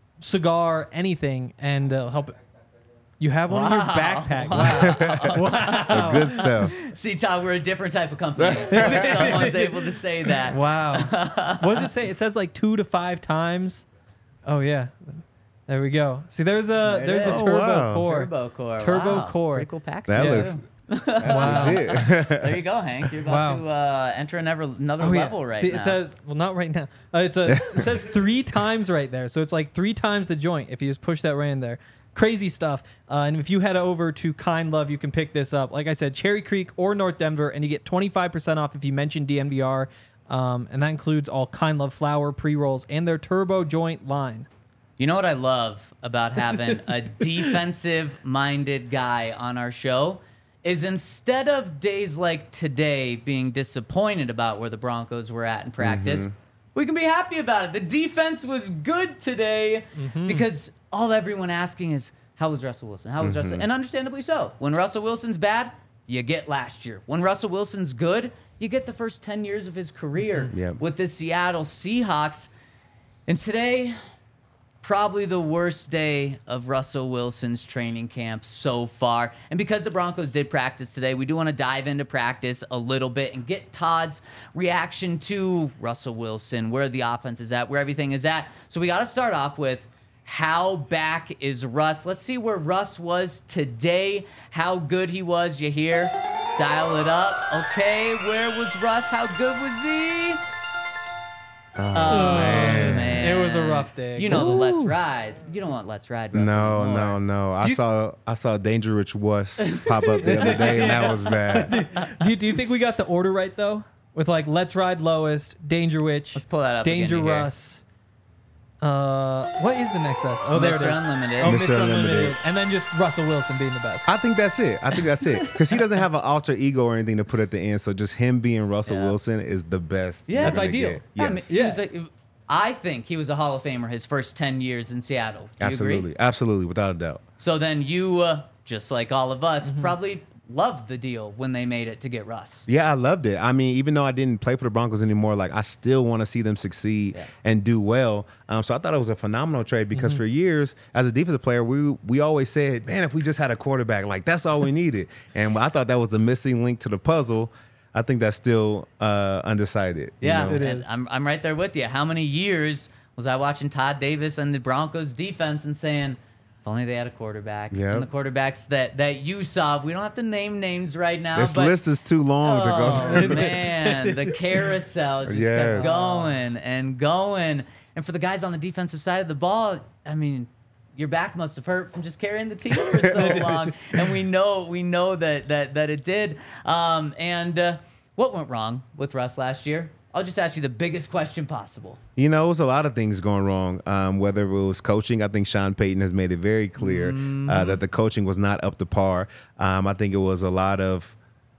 [SPEAKER 3] cigar, anything, and uh, help it. You have one in your backpack. Wow.
[SPEAKER 2] The good stuff.
[SPEAKER 1] See, Todd, we're a different type of company. If someone's able to say that.
[SPEAKER 3] Wow. What does it say? It says like two to five times. Oh yeah. There we go. See, there's a
[SPEAKER 1] There it
[SPEAKER 3] there's the
[SPEAKER 1] is.
[SPEAKER 3] turbo
[SPEAKER 2] Oh, wow.
[SPEAKER 3] core.
[SPEAKER 1] Turbo Core.
[SPEAKER 3] Turbo
[SPEAKER 1] wow.
[SPEAKER 3] Core.
[SPEAKER 1] Pretty cool package.
[SPEAKER 2] That
[SPEAKER 3] Yeah.
[SPEAKER 2] looks that's
[SPEAKER 3] Wow.
[SPEAKER 2] legit.
[SPEAKER 1] There you go, Hank. You're about
[SPEAKER 3] Wow.
[SPEAKER 1] to uh, enter another, another
[SPEAKER 3] Oh, yeah.
[SPEAKER 1] level right
[SPEAKER 3] See,
[SPEAKER 1] now.
[SPEAKER 3] it says well, not right now. Uh, it's a it says three times right there, so it's like three times the joint if you just push that right in there. Crazy stuff. Uh, and if you head over to Kind Love, you can pick this up. Like I said, Cherry Creek or North Denver, and you get twenty-five percent off if you mention D M V R. Um, and that includes all Kind Love flour, pre rolls, and their turbo joint line.
[SPEAKER 1] You know what I love about having a defensive-minded guy on our show is instead of days like today being disappointed about where the Broncos were at in practice, we can be happy about it. The defense was good today because all everyone asking is, how was Russell Wilson? How was Russell? And understandably so. When Russell Wilson's bad, you get last year. When Russell Wilson's good, you get the first ten years of his career
[SPEAKER 2] Yep.
[SPEAKER 1] with the Seattle Seahawks. And today, probably the worst day of Russell Wilson's training camp so far. And because the Broncos did practice today, we do want to dive into practice a little bit and get Todd's reaction to Russell Wilson, where the offense is at, where everything is at. So we got to start off with, how back is Russ? Let's see where Russ was today, how good he was. You hear? Dial it up. Okay, where was Russ? How good was he?
[SPEAKER 2] Oh,
[SPEAKER 1] man.
[SPEAKER 2] man.
[SPEAKER 3] It was a rough day.
[SPEAKER 1] You know the Let's Ride. You don't want Let's Ride. Russ
[SPEAKER 2] No,
[SPEAKER 1] anymore.
[SPEAKER 2] no, no. I
[SPEAKER 3] Do you-
[SPEAKER 2] saw I saw Dangerous Wuss pop up the other day, and that was bad.
[SPEAKER 3] do, you, do you think we got the order right though? With like Let's Ride Lowest, Danger Witch,
[SPEAKER 1] Let's pull that up
[SPEAKER 3] Danger
[SPEAKER 1] again, you hear?
[SPEAKER 3] Russ. Uh, what is the next best? Oh, there it is.
[SPEAKER 1] Mister Unlimited.
[SPEAKER 3] Oh,
[SPEAKER 2] Mister
[SPEAKER 3] Mister Unlimited.
[SPEAKER 2] Unlimited.
[SPEAKER 3] And then just Russell Wilson being the best.
[SPEAKER 2] I think that's it. I think that's it. Because he doesn't have an alter ego or anything to put at the end. So just him being Russell
[SPEAKER 1] Yeah.
[SPEAKER 2] Wilson is the best.
[SPEAKER 1] Yeah.
[SPEAKER 2] you're
[SPEAKER 3] That's
[SPEAKER 2] gonna
[SPEAKER 3] ideal.
[SPEAKER 2] get.
[SPEAKER 1] I
[SPEAKER 2] Yes.
[SPEAKER 1] mean, he
[SPEAKER 3] Yeah.
[SPEAKER 1] was a, I think he was a Hall of Famer his first ten years in Seattle. Do you
[SPEAKER 2] Absolutely.
[SPEAKER 1] agree?
[SPEAKER 2] Absolutely. Without a doubt.
[SPEAKER 1] So then you, uh, just like all of us,
[SPEAKER 3] Mm-hmm.
[SPEAKER 1] probably loved the deal when they made it to get Russ.
[SPEAKER 2] Yeah, I loved it. I mean, even though I didn't play for the Broncos anymore, like I still want to see them succeed
[SPEAKER 1] Yeah.
[SPEAKER 2] and do well. Um, so I thought it was a phenomenal trade because
[SPEAKER 3] Mm-hmm.
[SPEAKER 2] for years as a defensive player, we we always said, man, if we just had a quarterback, like that's all we needed. And I thought that was the missing link to the puzzle. I think that's still uh, undecided. you
[SPEAKER 1] Yeah,
[SPEAKER 2] know?
[SPEAKER 3] It
[SPEAKER 1] and
[SPEAKER 3] is.
[SPEAKER 1] I'm I'm right there with you. How many years was I watching Todd Davis and the Broncos defense and saying, if only they had a quarterback.
[SPEAKER 2] Yep.
[SPEAKER 1] And the quarterbacks that that you saw, we don't have to name names right now.
[SPEAKER 2] This
[SPEAKER 1] but,
[SPEAKER 2] list is too long to go
[SPEAKER 1] oh
[SPEAKER 2] through.
[SPEAKER 1] man, the carousel just
[SPEAKER 2] Yes.
[SPEAKER 1] kept going and going. And for the guys on the defensive side of the ball, I mean, your back must have hurt from just carrying the team for so long. And we know we know that that that it did. Um, and uh, what went wrong with Russ last year? I'll just ask you the biggest question possible.
[SPEAKER 2] You know, it was a lot of things going wrong. Um, whether it was coaching, I think Sean Payton has made it very clear uh, that the coaching was not up to par. Um, I think it was a lot of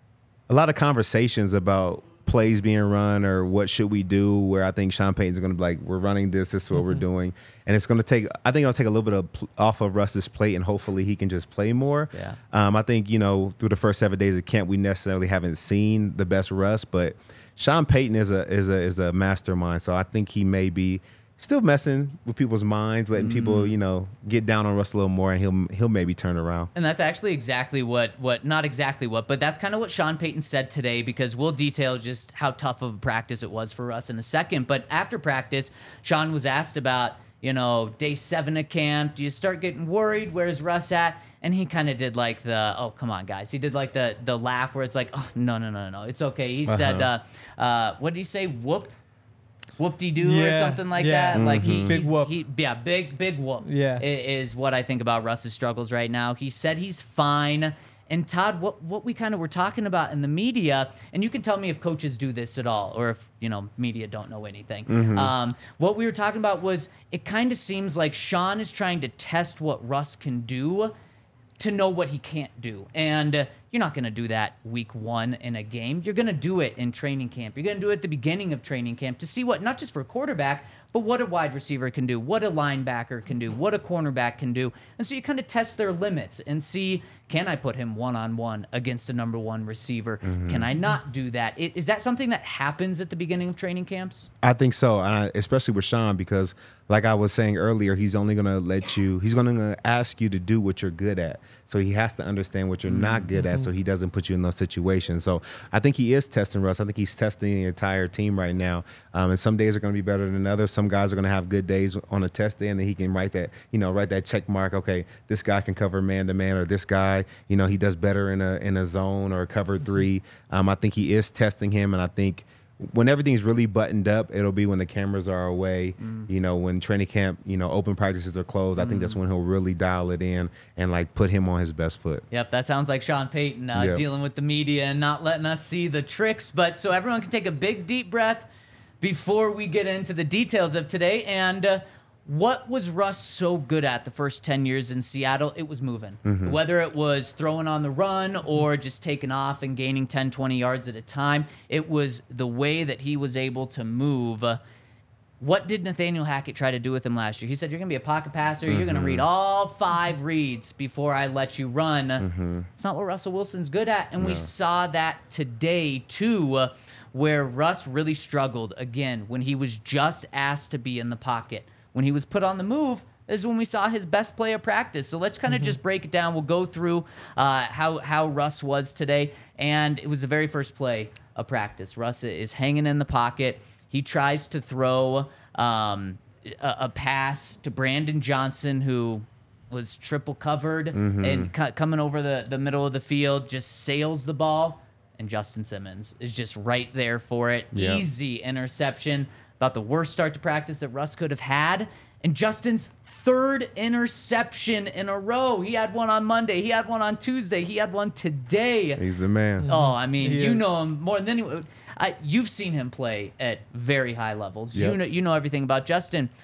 [SPEAKER 2] a lot of conversations about plays being run or what should we do. Where I think Sean Payton's going to be like, "We're running this. This is what we're doing," and it's going to take. I think it'll take a little bit of pl- off of Russ's plate, and hopefully he can just play more.
[SPEAKER 1] Yeah.
[SPEAKER 2] Um, I think you know through the first seven days of camp, we necessarily haven't seen the best Russ, but Sean Payton is a is a is a mastermind, so I think he may be still messing with people's minds, letting people you know get down on Russ a little more, and he'll he'll maybe turn around.
[SPEAKER 1] And that's actually exactly what, what not exactly what, but that's kind of what Sean Payton said today, because we'll detail just how tough of a practice it was for us in a second. But after practice, Sean was asked about, you know, day seven of camp. Do you start getting worried? Where's Russ at? And he kind of did like the, oh, come on, guys. He did like the the laugh where it's like, oh, no, no, no, no, it's okay. He said, uh, uh, what did he say? Whoop. Whoop-de-doo or
[SPEAKER 3] Yeah,
[SPEAKER 1] something like
[SPEAKER 3] yeah.
[SPEAKER 1] that. Like he,
[SPEAKER 3] Big
[SPEAKER 1] he's-
[SPEAKER 3] whoop.
[SPEAKER 1] He, yeah, big, big whoop.
[SPEAKER 3] Yeah.
[SPEAKER 1] i- is what I think about Russ's struggles right now. He said he's fine. And Todd, what what we kind of were talking about in the media, and you can tell me if coaches do this at all, or if you know media don't know anything. Um, what we were talking about was it kind of seems like Sean is trying to test what Russ can do to know what he can't do. And uh, you're not going to do that week one in a game. You're going to do it in training camp. You're going to do it at the beginning of training camp to see what, not just for a quarterback, but what a wide receiver can do, what a linebacker can do, what a cornerback can do. And so you kind of test their limits and see, can I put him one-on-one against a number one receiver? Can I not do that? I- Is that something that happens at the beginning of training camps?
[SPEAKER 2] I think so, and I, especially with Sean, because like I was saying earlier, he's only going to let you, he's going to ask you to do what you're good at. So he has to understand what you're not good at so he doesn't put you in those situations. So I think he is testing Russ. I think he's testing the entire team right now. Um, and some days are going to be better than others. Some guys are going to have good days on a test day, and then he can write that, you know, write that check mark. Okay, this guy can cover man to man, or this guy, you know, he does better in a in a zone or a cover three. Um, I think he is testing him, and I think when everything's really buttoned up, it'll be when the cameras are away.
[SPEAKER 1] Mm.
[SPEAKER 2] You know, when training camp, you know, open practices are closed. I think that's when he'll really dial it in and like put him on his best foot.
[SPEAKER 1] Yep, that sounds like Sean Payton uh,
[SPEAKER 2] Yep.
[SPEAKER 1] dealing with the media and not letting us see the tricks. But so everyone can take a big, deep breath before we get into the details of today. And uh, what was Russ so good at the first ten years in Seattle? It was moving. Whether it was throwing on the run or just taking off and gaining ten, twenty yards at a time, it was the way that he was able to move. Uh, What did Nathaniel Hackett try to do with him last year? He said, you're going to be a pocket passer. You're going to read all five reads before I let you run. It's not what Russell Wilson's good at. And we saw that today, too, uh, where Russ really struggled, again, when he was just asked to be in the pocket. When he was put on the move is when we saw his best play of practice. So let's kind of just break it down. We'll go through uh, how, how Russ was today. And it was the very first play of practice. Russ is hanging in the pocket. He tries to throw um, a, a pass to Brandon Johnson, who was triple covered and co- coming over the, the middle of the field, just sails the ball. And Justin Simmons is just right there for it.
[SPEAKER 2] Yeah.
[SPEAKER 1] Easy interception. About the worst start to practice that Russ could have had. And Justin's third interception in a row. He had one on Monday. He had one on Tuesday. He had one today.
[SPEAKER 2] He's the man.
[SPEAKER 1] Oh, I mean,
[SPEAKER 3] He
[SPEAKER 1] you
[SPEAKER 3] is.
[SPEAKER 1] know him more than anyone. I, you've seen him play at very high levels. You
[SPEAKER 2] Yep.
[SPEAKER 1] know, you know everything about Justin.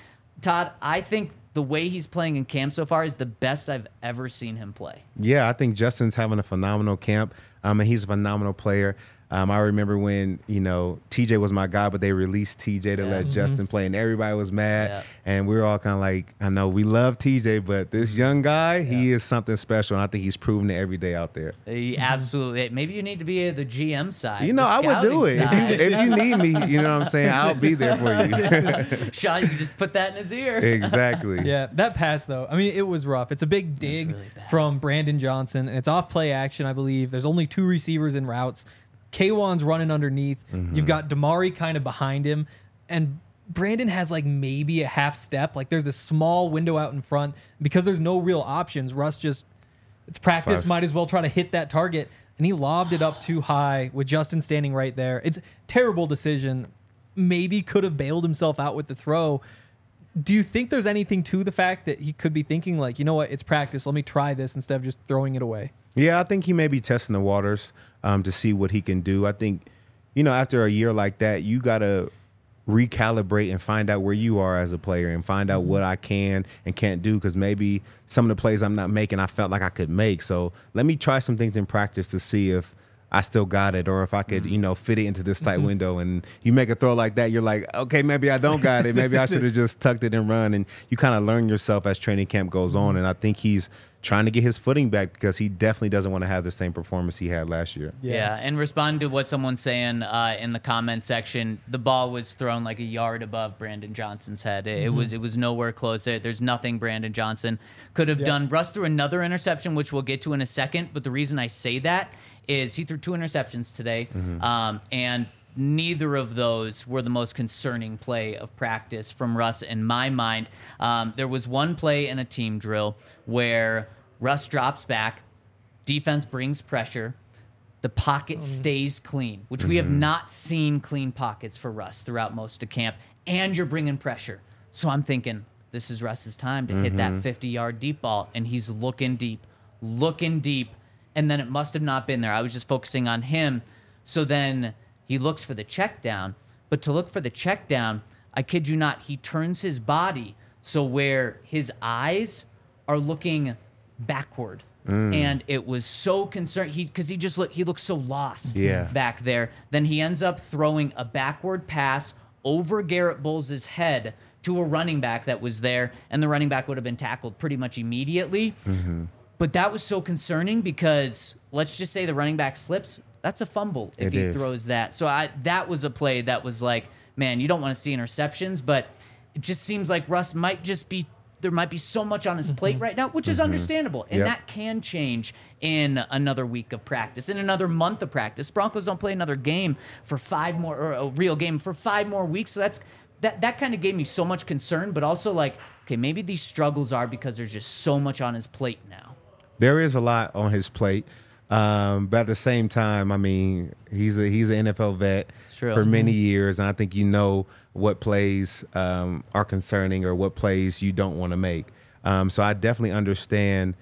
[SPEAKER 1] Todd, I think the way he's playing in camp so far is the best I've ever seen him play.
[SPEAKER 2] Yeah, I think Justin's having a phenomenal camp. Um, and he's a phenomenal player. Um, I remember when, you know, T J was my guy, but they released T J to
[SPEAKER 1] Yeah.
[SPEAKER 2] let
[SPEAKER 1] Mm-hmm.
[SPEAKER 2] Justin play, and everybody was mad.
[SPEAKER 1] Yeah.
[SPEAKER 2] And we were all kind of like, I know we love T J, but this young guy, he is something special, and I think he's proving it every day out there.
[SPEAKER 1] He absolutely. Maybe you need to be the G M side.
[SPEAKER 2] You know,
[SPEAKER 1] the
[SPEAKER 2] I would do it.
[SPEAKER 1] scouting
[SPEAKER 2] If you,
[SPEAKER 1] side.
[SPEAKER 2] if you need me, you know what I'm saying? I'll be there for you.
[SPEAKER 1] Sean, you can just put that in his ear.
[SPEAKER 2] Exactly.
[SPEAKER 3] Yeah, that pass though. I mean, it was rough. It's a big dig
[SPEAKER 1] really bad.
[SPEAKER 3] from Brandon Johnson, and it's off play action, I believe. There's only two receivers in routes. Kwan's running underneath.
[SPEAKER 2] Mm-hmm.
[SPEAKER 3] You've got Damari kind of behind him, and Brandon has like maybe a half step. Like there's a small window out in front because there's no real options. Russ just it's practice.
[SPEAKER 2] Five.
[SPEAKER 3] Might as well try to hit that target, and he lobbed it up too high with Justin standing right there. It's a terrible decision. Maybe could have bailed himself out with the throw. Do you think there's anything to the fact that he could be thinking like, you know what, it's practice. Let me try this instead of just throwing it away?
[SPEAKER 2] Yeah, I think he may be testing the waters um, to see what he can do. I think, you know, after a year like that, you got to recalibrate and find out where you are as a player and find out what I can and can't do, because maybe some of the plays I'm not making, I felt like I could make. So let me try some things in practice to see if I still got it, or if I could, you know, fit it into this tight window. And you make a throw like that, you're like, okay, maybe I don't got it. Maybe I should have just tucked it and run. And you kind of learn yourself as training camp goes on. And I think he's trying to get his footing back because he definitely doesn't want to have the same performance he had last year.
[SPEAKER 1] Yeah. and respond to what someone's saying uh, in the comment section. The ball was thrown like a yard above Brandon Johnson's head. It, it was it was nowhere close. There, there's nothing Brandon Johnson could have
[SPEAKER 3] Yeah.
[SPEAKER 1] done. Russ threw another interception, which we'll get to in a second. But the reason I say that is he threw two interceptions today, um, and neither of those were the most concerning play of practice from Russ in my mind. Um, there was one play in a team drill where Russ drops back, defense brings pressure, the pocket stays clean, which we have not seen clean pockets for Russ throughout most of camp, and you're bringing pressure. So I'm thinking, this is Russ's time to hit that fifty-yard deep ball, and he's looking deep, looking deep, and then it must have not been there. I was just focusing on him. So then he looks for the check down, but to look for the check down, I kid you not, he turns his body so where his eyes are looking backward. And it was so concerned he because he just looked he looked so lost
[SPEAKER 2] Yeah.
[SPEAKER 1] back there. Then he ends up throwing a backward pass over Garrett Bowles' head to a running back that was there, and the running back would have been tackled pretty much immediately. But that was so concerning because let's just say the running back slips. That's a fumble if
[SPEAKER 2] It
[SPEAKER 1] he
[SPEAKER 2] is.
[SPEAKER 1] throws that. So I, that was a play that was like, man, you don't want to see interceptions, but it just seems like Russ might just be, there might be so much on his plate right now, which is understandable. And
[SPEAKER 2] Yep.
[SPEAKER 1] that can change in another week of practice, in another month of practice. Broncos don't play another game for five more, or a real game for five more weeks. So that's, that, that kind of gave me so much concern, but also like, okay, maybe these struggles are because there's just so much on his plate now.
[SPEAKER 2] There is a lot on his plate, um, but at the same time, I mean, he's a he's an N F L vet
[SPEAKER 1] true.
[SPEAKER 2] for many years, and I think you know what plays um, are concerning or what plays you don't want to make. Um, so I definitely understand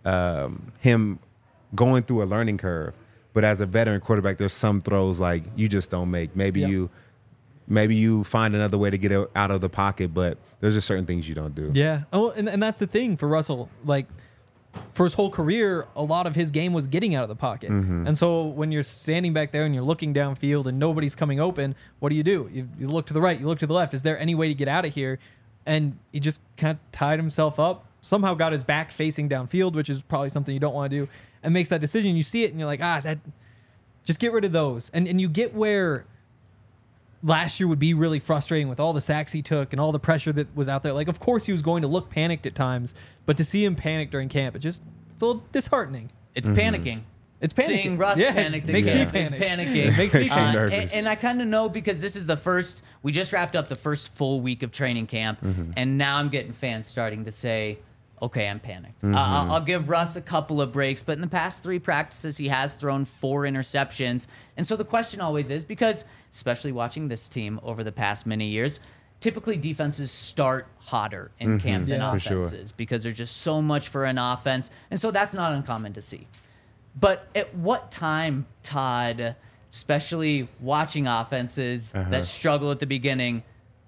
[SPEAKER 2] um, him going through a learning curve. But as a veteran quarterback, there's some throws like you just don't make. Maybe
[SPEAKER 3] Yep.
[SPEAKER 2] you maybe you find another way to get it out of the pocket, but there's just certain things you don't do.
[SPEAKER 3] Yeah. Oh, and, and that's the thing for Russell. Like, for his whole career, a lot of his game was getting out of the pocket. And so when you're standing back there and you're looking downfield and nobody's coming open, what do you do? You, you look to the right, you look to the left. Is there any way to get out of here? And he just kind of tied himself up, somehow got his back facing downfield, which is probably something you don't want to do, and makes that decision. You see it and you're like, ah, that, just get rid of those. And and you get where last year would be really frustrating with all the sacks he took and all the pressure that was out there. Like, of course he was going to look panicked at times, but to see him panic during camp, it just, it's a little disheartening.
[SPEAKER 1] It's panicking.
[SPEAKER 3] It's panicking.
[SPEAKER 1] Seeing Russ
[SPEAKER 3] Yeah,
[SPEAKER 1] panic
[SPEAKER 3] it makes me
[SPEAKER 1] is
[SPEAKER 3] panic.
[SPEAKER 1] panicking.
[SPEAKER 3] It makes me
[SPEAKER 2] Makes you
[SPEAKER 1] Uh,
[SPEAKER 2] nervous.
[SPEAKER 1] and, and I kind of know because this is the first, we just wrapped up the first full week of training camp, and now I'm getting fans starting to say, okay, I'm panicked. Uh, I'll, I'll give Russ a couple of breaks, but in the past three practices, he has thrown four interceptions. And so the question always is, because especially watching this team over the past many years, typically defenses start hotter in camp than
[SPEAKER 3] Yeah.
[SPEAKER 2] For sure.
[SPEAKER 1] offenses because there's just so much for an offense. And so that's not uncommon to see. But at what time, Todd, especially watching offenses that struggle at the beginning,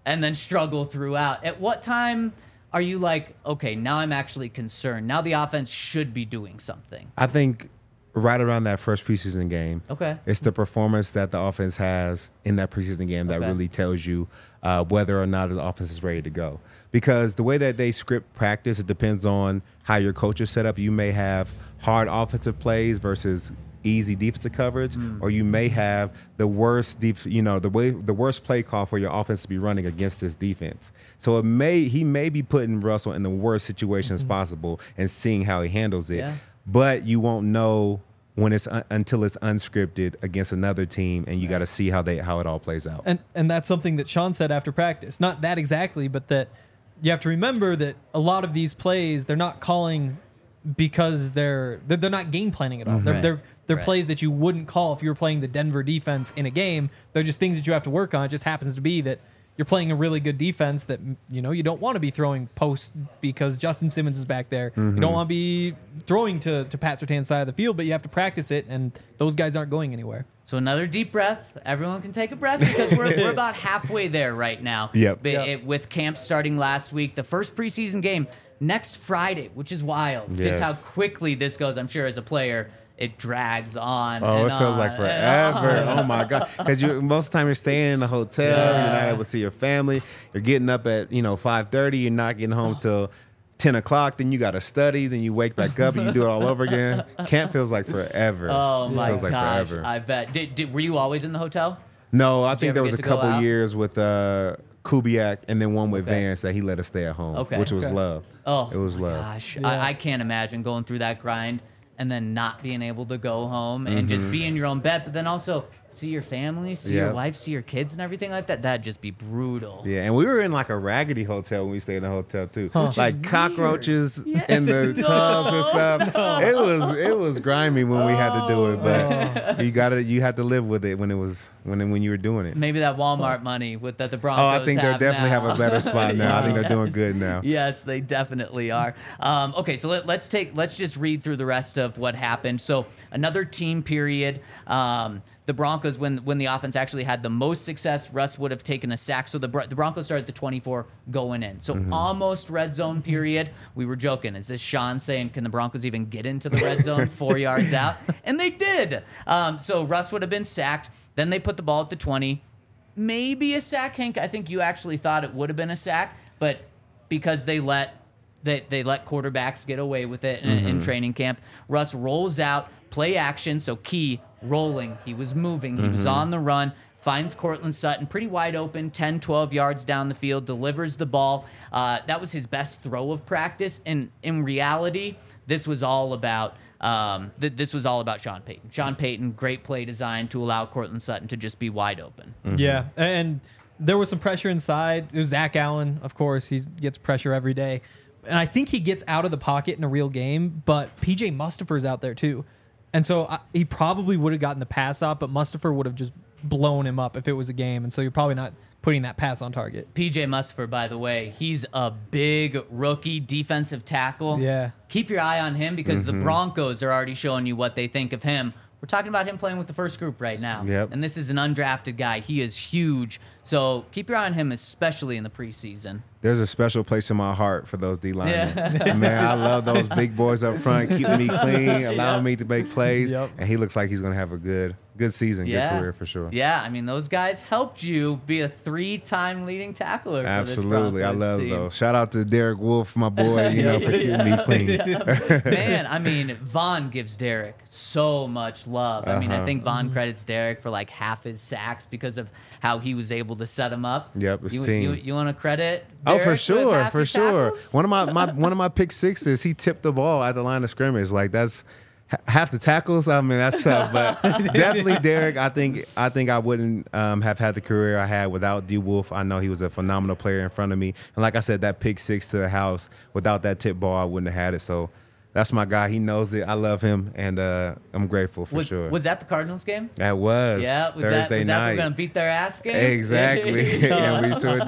[SPEAKER 1] and then struggle throughout. At what time are you like, okay, now I'm actually concerned. Now the offense should be doing something.
[SPEAKER 2] I think right around that first preseason game.
[SPEAKER 1] Okay.
[SPEAKER 2] It's the performance that the offense has in that preseason game that
[SPEAKER 1] Okay.
[SPEAKER 2] really tells you uh, whether or not the offense is ready to go. Because the way that they script practice, it depends on how your coach is set up. You may have hard offensive plays versus easy defensive coverage,
[SPEAKER 1] Mm.
[SPEAKER 2] or you may have the worst, def- you know, the way the worst play call for your offense to be running against this defense. So it may he may be putting Russell in the worst situations possible and seeing how he handles it.
[SPEAKER 1] Yeah.
[SPEAKER 2] But you won't know when it's un- until it's unscripted against another team, and you got to see how they how it all plays out.
[SPEAKER 3] And and that's something that Sean said after practice. Not that exactly, but that you have to remember that a lot of these plays they're not calling because they're they're, they're not game planning at all. They're
[SPEAKER 1] Right.
[SPEAKER 3] they're they're
[SPEAKER 1] Right.
[SPEAKER 3] plays that you wouldn't call if you were playing the Denver defense in a game. They're just things that you have to work on. It just happens to be that you're playing a really good defense that, you know, you don't want to be throwing posts because Justin Simmons is back there. You don't want to be throwing to, to Pat Surtain's side of the field, but you have to practice it, and those guys aren't going anywhere.
[SPEAKER 1] So another deep breath. Everyone can take a breath because we're, we're about halfway there right now.
[SPEAKER 2] Yep.
[SPEAKER 1] But
[SPEAKER 3] Yep.
[SPEAKER 1] it- with camp starting last week, the first preseason game next Friday, which is wild. Just
[SPEAKER 2] Yes.
[SPEAKER 1] how quickly this goes. I'm sure as a player, it drags on.
[SPEAKER 2] Oh,
[SPEAKER 1] and
[SPEAKER 2] it feels
[SPEAKER 1] on
[SPEAKER 2] like
[SPEAKER 1] and
[SPEAKER 2] forever.
[SPEAKER 1] on.
[SPEAKER 2] Oh my God! Because you most of the time you're staying in a hotel,
[SPEAKER 1] Yeah.
[SPEAKER 2] you're not able to see your family. You're getting up at you know five thirty. You're not getting home till ten o'clock. Then you got to study. Then you wake back up and you do it all over again. Camp feels like forever.
[SPEAKER 1] Oh
[SPEAKER 2] It
[SPEAKER 1] my
[SPEAKER 2] feels like
[SPEAKER 1] gosh!
[SPEAKER 2] forever.
[SPEAKER 1] I bet. Did, did were you always in the hotel?
[SPEAKER 2] No, I
[SPEAKER 1] you
[SPEAKER 2] think
[SPEAKER 1] ever
[SPEAKER 2] there was
[SPEAKER 1] get
[SPEAKER 2] a
[SPEAKER 1] to go
[SPEAKER 2] couple
[SPEAKER 1] out?
[SPEAKER 2] years with uh, Kubiak and then one with
[SPEAKER 1] Okay.
[SPEAKER 2] Vance that he let us stay at home,
[SPEAKER 1] Okay.
[SPEAKER 2] which was
[SPEAKER 3] Okay.
[SPEAKER 2] love.
[SPEAKER 1] Oh,
[SPEAKER 2] it was
[SPEAKER 1] my
[SPEAKER 2] love.
[SPEAKER 1] Gosh,
[SPEAKER 3] Yeah.
[SPEAKER 1] I, I can't imagine going through that grind and then not being able to go home and just be in your own bed, but then also see your family, see your
[SPEAKER 2] Yep.
[SPEAKER 1] wife, see your kids, and everything like that. That'd just be brutal.
[SPEAKER 2] Yeah, and we were in like a raggedy hotel when we stayed in the hotel too, like
[SPEAKER 1] weird.
[SPEAKER 2] cockroaches in the tubs and stuff. It was it was grimy when we had to do it, but you got to you had to live with it when it was when when you were doing it.
[SPEAKER 1] Maybe that Walmart money with that the Broncos
[SPEAKER 2] Oh, I think they
[SPEAKER 1] have
[SPEAKER 2] definitely
[SPEAKER 1] now.
[SPEAKER 2] have a better spot now. I think they're doing
[SPEAKER 1] Yes.
[SPEAKER 2] good now.
[SPEAKER 1] Yes, they definitely are. Um, okay, so let, let's take let's just read through the rest of what happened. So another team period. Um, the Broncos, when when the offense actually had the most success, Russ would have taken a sack. So the Bro- the Broncos started the twenty-four going in. So
[SPEAKER 2] Mm-hmm.
[SPEAKER 1] almost red zone period. We were joking. Is this Sean saying, can the Broncos even get into the red zone four yards out? And they did. Um, so Russ would have been sacked. Then they put the ball at the twenty. Maybe a sack, Hank. I think you actually thought it would have been a sack, but because they let they, they let quarterbacks get away with it in, in training camp, Russ rolls out, play action, so key, rolling. He was moving. He was on the run, finds Cortland Sutton pretty wide open, ten, twelve yards down the field, delivers the ball. Uh, that was his best throw of practice. And in reality, this was all about um, th- this was all about Sean Payton. Sean Payton, great play design to allow Cortland Sutton to just be wide open.
[SPEAKER 3] Yeah, and there was some pressure inside. It was Zach Allen, of course. He gets pressure every day. And I think he gets out of the pocket in a real game, but P J Mustafer's out there too. And so I, he probably would have gotten the pass off, but Mustafer would have just blown him up if it was a game. And so you're probably not putting that pass on target.
[SPEAKER 1] P J Mustafer, by the way, he's a big rookie defensive tackle.
[SPEAKER 3] Yeah.
[SPEAKER 1] Keep your eye on him because the Broncos are already showing you what they think of him. We're talking about him playing with the first group right now.
[SPEAKER 2] Yep.
[SPEAKER 1] And this is an undrafted guy. He is huge. So keep your eye on him, especially in the preseason.
[SPEAKER 2] There's a special place in my heart for those D linemen.
[SPEAKER 1] Yeah.
[SPEAKER 2] Man, I love those big boys up front, keeping me clean, allowing
[SPEAKER 1] Yep.
[SPEAKER 2] me to make plays.
[SPEAKER 3] Yep.
[SPEAKER 2] And he looks like he's going to have a good good season,
[SPEAKER 1] Yeah.
[SPEAKER 2] good career for sure.
[SPEAKER 1] Yeah, I mean, those guys helped you be a three-time leading tackler.
[SPEAKER 2] Absolutely. I
[SPEAKER 1] For this Broncos
[SPEAKER 2] love
[SPEAKER 1] team.
[SPEAKER 2] those. Shout out to Derek Wolf, my boy, you know, for keeping me clean.
[SPEAKER 1] Man, I mean, Vaughn gives Derek so much love. I mean, I
[SPEAKER 2] Uh-huh.
[SPEAKER 1] think Vaughn credits Derek for like half his sacks because of how he was able to set him up.
[SPEAKER 2] Yep, it's
[SPEAKER 1] you,
[SPEAKER 2] team.
[SPEAKER 1] You, you want to credit?
[SPEAKER 2] Oh,
[SPEAKER 1] Derek
[SPEAKER 2] for
[SPEAKER 1] with
[SPEAKER 2] sure,
[SPEAKER 1] half
[SPEAKER 2] for
[SPEAKER 1] your
[SPEAKER 2] sure.
[SPEAKER 1] tackles?
[SPEAKER 2] One of my, my one of my pick sixes, he tipped the ball at the line of scrimmage. Like that's h- half the tackles. I mean, that's tough, but definitely Derek. I think I think I wouldn't um, have had the career I had without D Wolf. I know he was a phenomenal player in front of me, and like I said, that pick six to the house. Without that tip ball, I wouldn't have had it. So. That's my guy. He knows it. I love him, and uh, I'm grateful for
[SPEAKER 1] Was,
[SPEAKER 2] sure.
[SPEAKER 1] was that the Cardinals game?
[SPEAKER 2] that was
[SPEAKER 1] Yeah, was
[SPEAKER 2] Thursday
[SPEAKER 1] that was that
[SPEAKER 2] night.
[SPEAKER 1] we're gonna beat their ass game?
[SPEAKER 2] Exactly, and we sure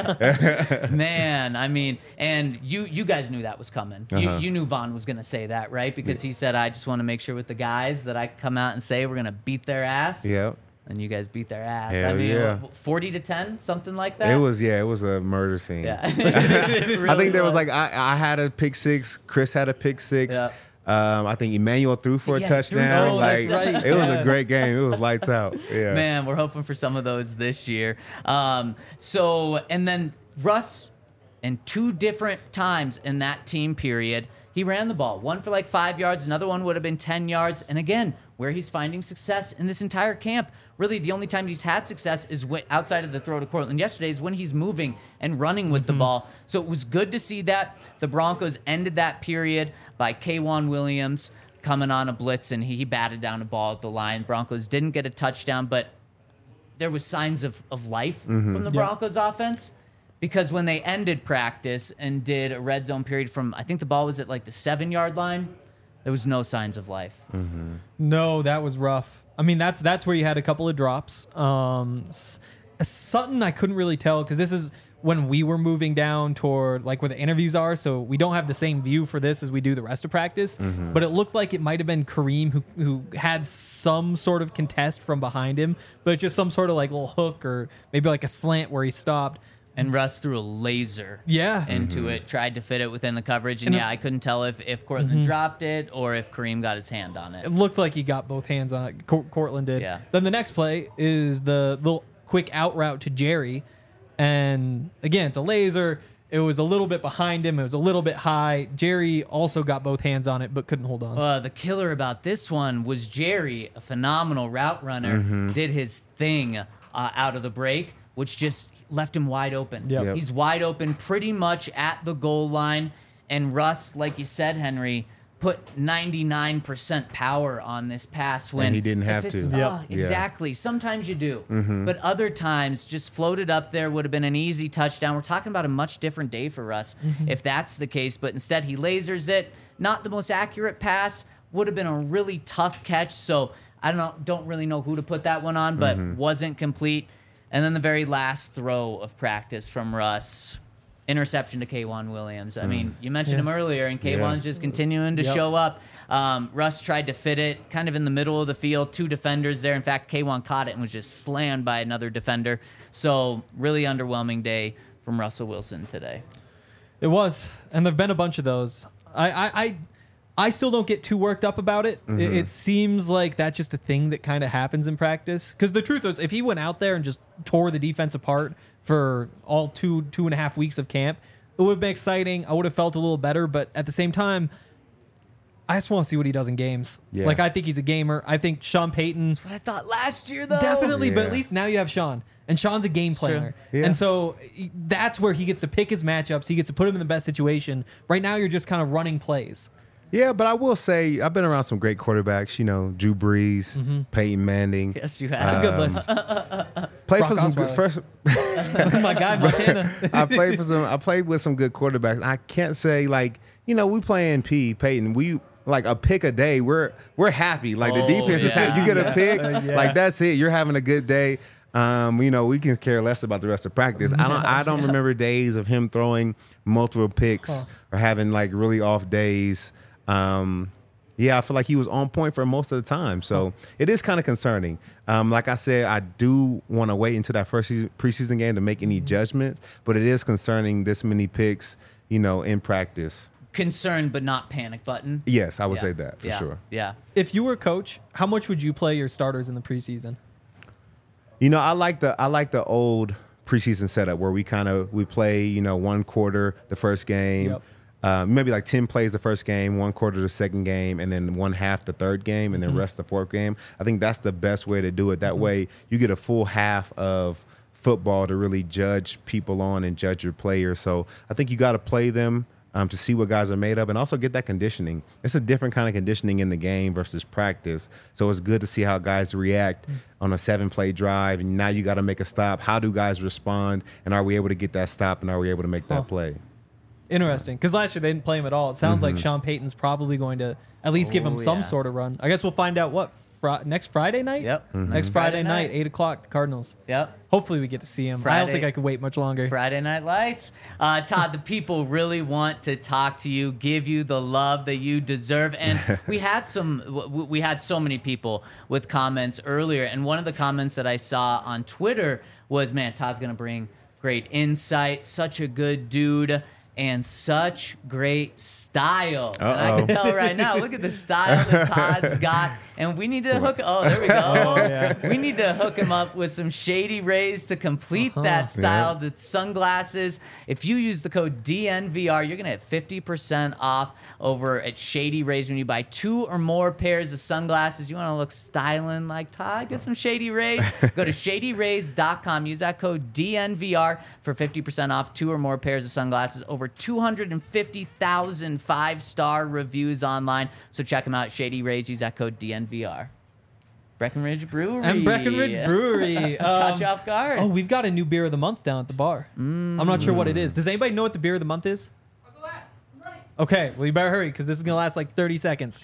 [SPEAKER 2] did.
[SPEAKER 1] Man, I mean, and you you guys knew that was coming. You,
[SPEAKER 2] Uh-huh.
[SPEAKER 1] you knew Vaughn was going to say that, right? Because he said, I just want to make sure with the guys that I come out and say we're going to beat their ass.
[SPEAKER 2] Yep.
[SPEAKER 1] and you guys beat their ass.
[SPEAKER 2] Hell
[SPEAKER 1] I mean,
[SPEAKER 2] yeah.
[SPEAKER 1] forty to ten, something like that.
[SPEAKER 2] It was yeah, it was a murder scene.
[SPEAKER 1] Yeah.
[SPEAKER 2] I think there was like I, I had a pick six, Chris had a pick six.
[SPEAKER 1] Yeah.
[SPEAKER 2] Um, I think Emmanuel threw for a
[SPEAKER 1] Yeah, threw
[SPEAKER 2] touchdown.
[SPEAKER 1] for a
[SPEAKER 2] like
[SPEAKER 3] touchdown.
[SPEAKER 2] it was
[SPEAKER 3] Yeah.
[SPEAKER 2] a great game. It was lights out. Yeah.
[SPEAKER 1] Man, we're hoping for some of those this year. Um, so, and then Russ, in two different times in that team period, he ran the ball. One for like five yards, another one would have been ten yards. And again, where he's finding success in this entire camp, really the only time he's had success is when, outside of the throw to Cortland yesterday, is when he's moving and running with the ball. So it was good to see that. The Broncos ended that period by K'Wan Williams coming on a blitz, and he, he batted down a ball at the line. Broncos didn't get a touchdown, but there was signs of, of life from the Broncos offense, because when they ended practice and did a red zone period from, I think the ball was at like the seven yard line, there was no signs of life.
[SPEAKER 3] No, that was rough. I mean, that's that's where you had a couple of drops. Um, S- Sutton, I couldn't really tell because this is when we were moving down toward like where the interviews are, so we don't have the same view for this as we do the rest of practice. But it looked like it might have been Kareem who who had some sort of contest from behind him, but just some sort of like little hook or maybe like a slant where he stopped.
[SPEAKER 1] And Russ threw a laser
[SPEAKER 3] Yeah.
[SPEAKER 1] into it, tried to fit it within the coverage. And,
[SPEAKER 3] And
[SPEAKER 1] yeah, I couldn't tell if, if Cortland dropped it or if Kareem got his hand on it.
[SPEAKER 3] It looked like he got both hands on it. Cor- Cortland did.
[SPEAKER 1] Yeah.
[SPEAKER 3] Then the next play is the little quick out route to Jerry. And again, it's a laser. It was a little bit behind him. It was a little bit high. Jerry also got both hands on it, but couldn't hold on.
[SPEAKER 1] Uh, the killer about this one was Jerry, a phenomenal route runner, did his thing uh, out of the break, which just left him wide open.
[SPEAKER 3] Yep.
[SPEAKER 2] Yep.
[SPEAKER 1] He's wide open pretty much at the goal line. And Russ, like you said, Henry, put ninety-nine percent power on this pass when
[SPEAKER 2] And he didn't
[SPEAKER 1] if
[SPEAKER 2] have
[SPEAKER 1] it's-
[SPEAKER 2] to.
[SPEAKER 1] ah,
[SPEAKER 3] Yep.
[SPEAKER 2] Yeah.
[SPEAKER 1] Exactly. Sometimes you do. But other times, just floated up there would have been an easy touchdown. We're talking about a much different day for Russ if that's the case. But instead, he lasers it. Not the most accurate pass. Would have been a really tough catch. So I don't know, don't really know who to put that one on, but wasn't complete. And then the very last throw of practice from Russ, interception to K'Wan Williams. I mean, you mentioned
[SPEAKER 3] Yeah.
[SPEAKER 1] him earlier, and K'Wan's
[SPEAKER 2] Yeah.
[SPEAKER 1] just continuing to
[SPEAKER 3] Yep.
[SPEAKER 1] show up. Um, Russ tried to fit it kind of in the middle of the field, two defenders there. In fact, K'Wan caught it and was just slammed by another defender. So really underwhelming day from Russell Wilson today.
[SPEAKER 3] It was, and there've been a bunch of those. I, I, I, I still don't get too worked up about it. It, it seems like that's just a thing that kind of happens in practice. Because the truth is, if he went out there and just tore the defense apart for all two, two and a half weeks of camp, it would have been exciting. I would have felt a little better, but at the same time, I just want to see what he does in games.
[SPEAKER 2] Yeah.
[SPEAKER 3] Like, I think he's a gamer. I think Sean Payton.
[SPEAKER 1] But I thought last year, though.
[SPEAKER 3] Definitely, but at
[SPEAKER 2] Yeah.
[SPEAKER 3] least now you have Sean, and Sean's a game
[SPEAKER 1] It's true.
[SPEAKER 3] planner,
[SPEAKER 2] Yeah.
[SPEAKER 3] and so he- that's where he gets to pick his matchups. He gets to put him in the best situation. Right now, you're just kind of running plays.
[SPEAKER 2] Yeah, but I will say I've been around some great quarterbacks. You know, Drew Brees, Peyton Manning.
[SPEAKER 1] Yes, you
[SPEAKER 3] That's
[SPEAKER 1] have.
[SPEAKER 3] a good
[SPEAKER 2] Um,
[SPEAKER 3] list.
[SPEAKER 2] Played
[SPEAKER 3] Brock
[SPEAKER 2] for some good
[SPEAKER 3] Osweiler.
[SPEAKER 2] first.
[SPEAKER 3] My guy Montana.
[SPEAKER 2] I played for some. I played with some good quarterbacks. I can't say like you know we playing P Peyton. We like a pick a day. We're we're happy. Like the
[SPEAKER 1] Oh,
[SPEAKER 2] defense is
[SPEAKER 1] yeah.
[SPEAKER 2] happy. You get a pick.
[SPEAKER 3] Uh, yeah.
[SPEAKER 2] Like that's it. You're having a good day. Um, you know we can care less about the rest of practice. I don't. I don't remember days of him throwing multiple picks
[SPEAKER 3] Huh.
[SPEAKER 2] or having like really off days. Um, yeah, I feel like he was on point for most of the time. So it is kind of concerning. Um, like I said, I do want to wait until that first season, preseason game to make any judgments, but it is concerning this many picks, you know, in practice.
[SPEAKER 1] Concerned, but not panic button.
[SPEAKER 2] Yes, I would
[SPEAKER 1] Yeah.
[SPEAKER 2] say that for
[SPEAKER 1] yeah.
[SPEAKER 2] sure.
[SPEAKER 1] Yeah.
[SPEAKER 3] If you were coach, how much would you play your starters in the preseason?
[SPEAKER 2] You know, I like the I like the old preseason setup where we kind of we play, you know, one quarter the first game.
[SPEAKER 3] Yep.
[SPEAKER 2] Uh, maybe like ten plays the first game, one quarter the second game, and then one half the third game, and then rest the fourth game. I think that's the best way to do it. That way you get a full half of football to really judge people on and judge your players. So I think you got to play them um, to see what guys are made of and also get that conditioning. It's a different kind of conditioning in the game versus practice. So it's good to see how guys react on a seven-play drive, and now you got to make a stop. How do guys respond, and are we able to get that stop, and are we able to make that
[SPEAKER 3] Huh.
[SPEAKER 2] play?
[SPEAKER 3] Interesting, because last year they didn't play him at all. It sounds like Sean Payton's probably going to at least give him
[SPEAKER 1] Oh,
[SPEAKER 3] some
[SPEAKER 1] yeah.
[SPEAKER 3] sort of run. I guess we'll find out what fr- next Friday night.
[SPEAKER 1] Yep.
[SPEAKER 2] Mm-hmm.
[SPEAKER 3] Next Friday, night, eight o'clock. The Cardinals.
[SPEAKER 1] Yep.
[SPEAKER 3] Hopefully we get to see him. I
[SPEAKER 1] Friday-
[SPEAKER 3] don't think I could wait much longer.
[SPEAKER 1] Friday Night Lights. Uh, Todd, the people really want to talk to you, give you the love that you deserve. And we had some, w- we had so many people with comments earlier. And one of the comments that I saw on Twitter was, man, Todd's going to bring great insight, such a good dude, and such great style. And I can
[SPEAKER 2] Uh-oh.
[SPEAKER 1] tell right now, look at the style that Todd's got. And we need to hook, oh, there we go.
[SPEAKER 3] yeah.
[SPEAKER 1] We need to hook him up with some Shady Rays to complete
[SPEAKER 3] Uh-huh.
[SPEAKER 1] that style, the sunglasses. If you use the code D N V R, you're going to get fifty percent off over at Shady Rays when you buy two or more pairs of sunglasses. You want to look styling like Todd? Get some Shady Rays. Go to shady rays dot com. Use that code D N V R for fifty percent off two or more pairs of sunglasses. Over two hundred fifty thousand five-star reviews online. So check them out. Shady Rays. Use that code D N V R. Breckenridge Brewery.
[SPEAKER 3] And Breckenridge Brewery.
[SPEAKER 1] Caught
[SPEAKER 3] Um,
[SPEAKER 1] you off guard.
[SPEAKER 3] oh, we've got a new beer of the month down at the bar. I'm not sure what it is. Does anybody know what the beer of the month is?
[SPEAKER 4] I'll go last. I'm ready.
[SPEAKER 3] Okay, well, you better hurry because this is going to last like thirty seconds.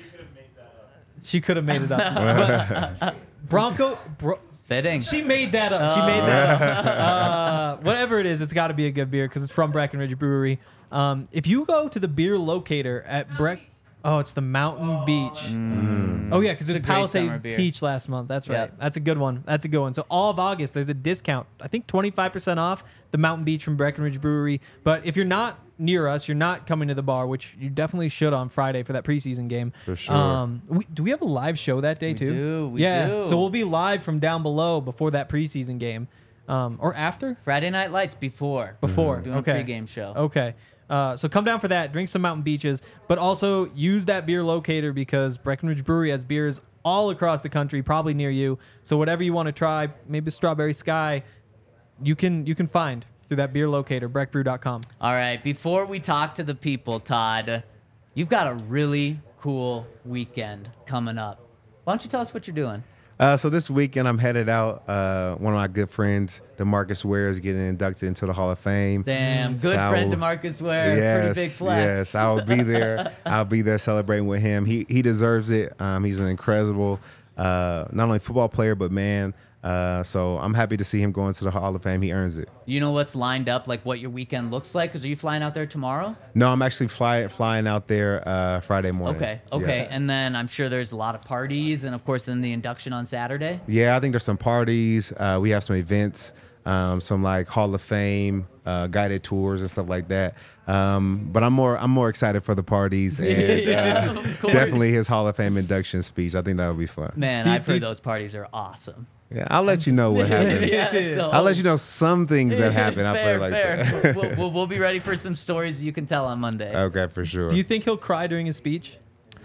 [SPEAKER 3] She could have made it up. But Bronco. Bro,
[SPEAKER 1] Fitting.
[SPEAKER 3] she made that up. She made that up. Uh, whatever it is, it's got to be a good beer because it's from Breckenridge Brewery. Um, if you go to the beer locator at Breck, oh, it's the Mountain Beach. Oh yeah, because
[SPEAKER 1] It's a
[SPEAKER 3] there's
[SPEAKER 1] great summer
[SPEAKER 3] Palisade
[SPEAKER 1] beer.
[SPEAKER 3] Peach last month. That's right.
[SPEAKER 1] Yep.
[SPEAKER 3] That's a good one. That's a good one. So all of August, there's a discount. I think twenty-five percent off the Mountain Beach from Breckenridge Brewery. But if you're not near us, you're not coming to the bar, which you definitely should on Friday for that preseason game.
[SPEAKER 2] For sure.
[SPEAKER 3] Um, we, do we have a live show that day
[SPEAKER 1] We
[SPEAKER 3] too?
[SPEAKER 1] do, we
[SPEAKER 3] yeah.
[SPEAKER 1] do.
[SPEAKER 3] So we'll be live from down below before that preseason game, um, or after.
[SPEAKER 1] Friday Night Lights before.
[SPEAKER 3] Before.
[SPEAKER 1] Doing
[SPEAKER 3] Okay.
[SPEAKER 1] a pregame show.
[SPEAKER 3] Okay. Uh, so come down for that. Drink some Mountain Beaches, but also use that beer locator because Breckenridge Brewery has beers all across the country, probably near you. So whatever you want to try, maybe Strawberry Sky, you can you can find through that beer locator, breck brew dot com.
[SPEAKER 1] All right. Before we talk to the people, Todd, you've got a really cool weekend coming up. Why don't you tell us what you're doing?
[SPEAKER 2] Uh, so this weekend I'm headed out. Uh, one of my good friends, DeMarcus Ware, is getting inducted into the Hall of Fame.
[SPEAKER 1] Damn, good
[SPEAKER 2] So-
[SPEAKER 1] friend DeMarcus Ware.
[SPEAKER 2] Yes,
[SPEAKER 1] Pretty big flex.
[SPEAKER 2] yes, I'll be there. I'll be there celebrating with him. He he deserves it. Um, he's an incredible, uh, not only football player but man. Uh, so I'm happy to see him go into the Hall of Fame. He earns it.
[SPEAKER 1] You know what's lined up, like what your weekend looks like? Because are you flying out there tomorrow?
[SPEAKER 2] No, I'm actually fly, flying out there uh, Friday morning.
[SPEAKER 1] Okay, okay.
[SPEAKER 2] Yeah.
[SPEAKER 1] And then I'm sure there's a lot of parties, and of course, then the induction on Saturday.
[SPEAKER 2] Yeah, I think there's some parties. Uh, we have some events, um, some like Hall of Fame uh, guided tours and stuff like that. Um, but I'm more I'm more excited for the parties and
[SPEAKER 1] Yeah,
[SPEAKER 2] uh,
[SPEAKER 1] of course.
[SPEAKER 2] definitely his Hall of Fame induction speech. I think that'll be fun.
[SPEAKER 1] Man,
[SPEAKER 3] Do you-
[SPEAKER 1] I've
[SPEAKER 3] do
[SPEAKER 1] heard
[SPEAKER 3] you-
[SPEAKER 1] those parties are awesome.
[SPEAKER 2] Yeah, I'll let you know what happens.
[SPEAKER 1] Yeah, so-
[SPEAKER 2] I'll let you know some things that happen. I'll
[SPEAKER 1] fair,
[SPEAKER 2] play like
[SPEAKER 1] fair.
[SPEAKER 2] that.
[SPEAKER 1] we'll, we'll, we'll be ready for some stories you can tell on Monday.
[SPEAKER 2] Okay, for sure.
[SPEAKER 3] Do you think he'll cry during his speech?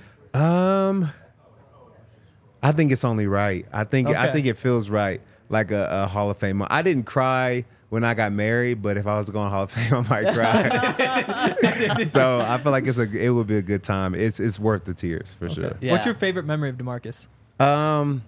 [SPEAKER 2] Um, I think it's only right. I think I
[SPEAKER 3] Okay.
[SPEAKER 2] think it feels right, like a, a Hall of Fame. I didn't cry when I got married, but if I was to go on Hall of Fame, I might cry. So I feel like it's a it would be a good time. It's it's worth the tears for sure.
[SPEAKER 1] Yeah.
[SPEAKER 3] What's your favorite memory of DeMarcus?
[SPEAKER 2] Um,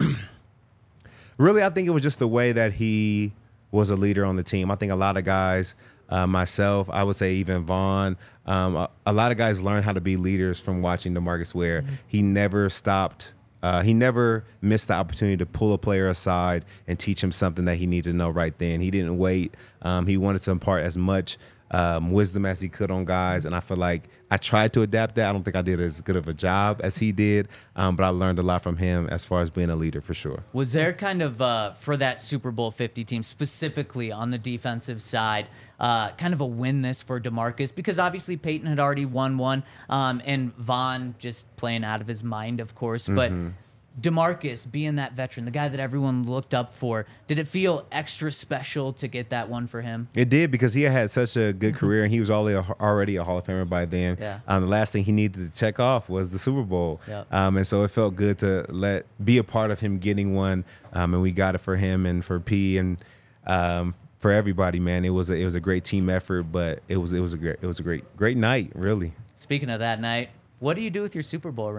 [SPEAKER 2] really, I think it was just the way that he was a leader on the team. I think a lot of guys, uh, myself, I would say even Vaughn, um, a, a lot of guys learn how to be leaders from watching DeMarcus Ware.
[SPEAKER 3] Mm-hmm.
[SPEAKER 2] He never stopped. Uh, he never missed the opportunity to pull a player aside and teach him something that he needed to know right then. He didn't wait. Um, he wanted to impart as much um, wisdom as he could on guys, and I feel like I tried to adapt that. I don't think I did as good of a job as he did, um, but I learned a lot from him as far as being a leader for sure.
[SPEAKER 1] Was there kind of, uh, for that Super Bowl fifty team, specifically on the defensive side, uh, kind of a win this for DeMarcus? Because obviously Peyton had already won one, um, and Vaughn just playing out of his mind, of course. But DeMarcus being that veteran, the guy that everyone looked up for, did it feel extra special to get that one for him?
[SPEAKER 2] It did, because he had had such a good career, and he was already a, already a Hall of Famer by then.
[SPEAKER 1] Yeah.
[SPEAKER 2] Um, the last thing he needed to check off was the Super Bowl.
[SPEAKER 1] Yep.
[SPEAKER 2] Um, and so it felt good to let be a part of him getting one, um, and we got it for him and for P and um, for everybody. Man, it was a, it was a great team effort, but it was it was a great it was a great great night, really.
[SPEAKER 1] Speaking of that night, what do you do with your Super Bowl ring?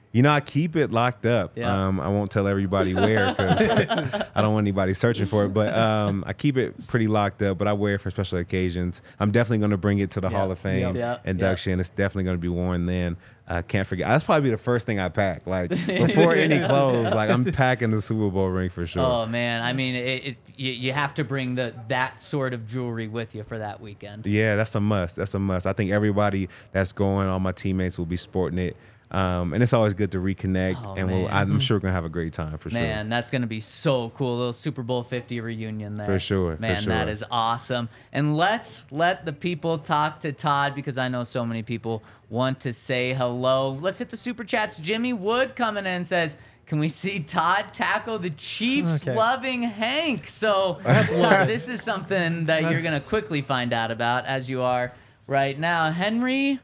[SPEAKER 2] You know, I keep it locked up.
[SPEAKER 1] Yeah.
[SPEAKER 2] Um, I won't tell everybody where because I don't want anybody searching for it. But um, I keep it pretty locked up. But I wear it for special occasions. I'm definitely going to bring it to the
[SPEAKER 3] Yeah.
[SPEAKER 2] Hall of Fame
[SPEAKER 1] Yeah.
[SPEAKER 2] induction. It's definitely going to be worn then. I can't forget. That's probably the first thing I pack. Like before any clothes, like I'm packing the Super Bowl ring for sure.
[SPEAKER 1] Oh man, I mean, it, it you, you have to bring the that sort of jewelry with you for that weekend.
[SPEAKER 2] Yeah, that's a must. That's a must. I think everybody that's going, all my teammates will be sporting it. Um, and it's always good to reconnect,
[SPEAKER 1] Oh,
[SPEAKER 2] and we'll,
[SPEAKER 1] man.
[SPEAKER 2] I'm sure we're gonna have a great time for
[SPEAKER 1] Man, that's going to be so cool. A little Super Bowl fifty reunion there.
[SPEAKER 2] For sure, for
[SPEAKER 1] Man, that
[SPEAKER 2] sure.
[SPEAKER 1] is awesome. And let's let the people talk to Todd because I know so many people want to say hello. Let's hit the Super Chats. Jimmy Wood coming in says, can we see Todd tackle the Chiefs
[SPEAKER 3] Okay.
[SPEAKER 1] loving Hank? So, Todd, this is something that you're
[SPEAKER 3] That's-
[SPEAKER 1] going to quickly find out about as you are right now. Henry,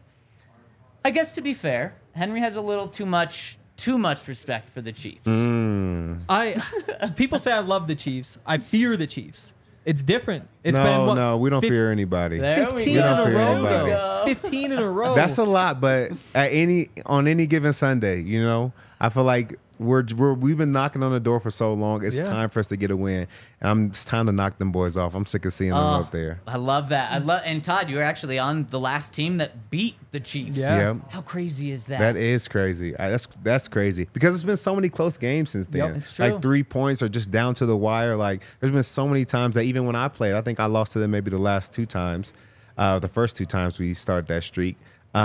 [SPEAKER 1] I guess to be fair, Henry has a little too much too much respect for the Chiefs.
[SPEAKER 2] sure.
[SPEAKER 3] I people say I love the Chiefs. I fear the Chiefs. It's different. It's
[SPEAKER 2] no,
[SPEAKER 3] been what,
[SPEAKER 2] no, we don't
[SPEAKER 3] fif-
[SPEAKER 2] fear anybody.
[SPEAKER 1] There we
[SPEAKER 3] fifteen
[SPEAKER 1] go.
[SPEAKER 3] in a
[SPEAKER 2] don't fear
[SPEAKER 3] row.
[SPEAKER 2] anybody.
[SPEAKER 3] though. Fifteen in a row.
[SPEAKER 2] That's a lot, but at any on any given Sunday, you know, I feel like we're, we're we've been knocking on the door for so long. It's
[SPEAKER 3] Yeah.
[SPEAKER 2] time for us to get a win, and I'm it's time to knock them boys off. I'm sick of seeing them
[SPEAKER 1] Oh,
[SPEAKER 2] up there.
[SPEAKER 1] I love that. I love and Todd, you were actually on the last team that beat the Chiefs.
[SPEAKER 3] Yeah.
[SPEAKER 2] Yeah,
[SPEAKER 1] How crazy is that?
[SPEAKER 2] that is crazy. I, that's that's crazy because there's been so many close games since then.
[SPEAKER 3] Yep,
[SPEAKER 1] it's true.
[SPEAKER 2] Like three points or just down to the wire. Like there's been so many times that even when I played, I think I lost to them maybe the last two times, uh, the first two times we started that streak.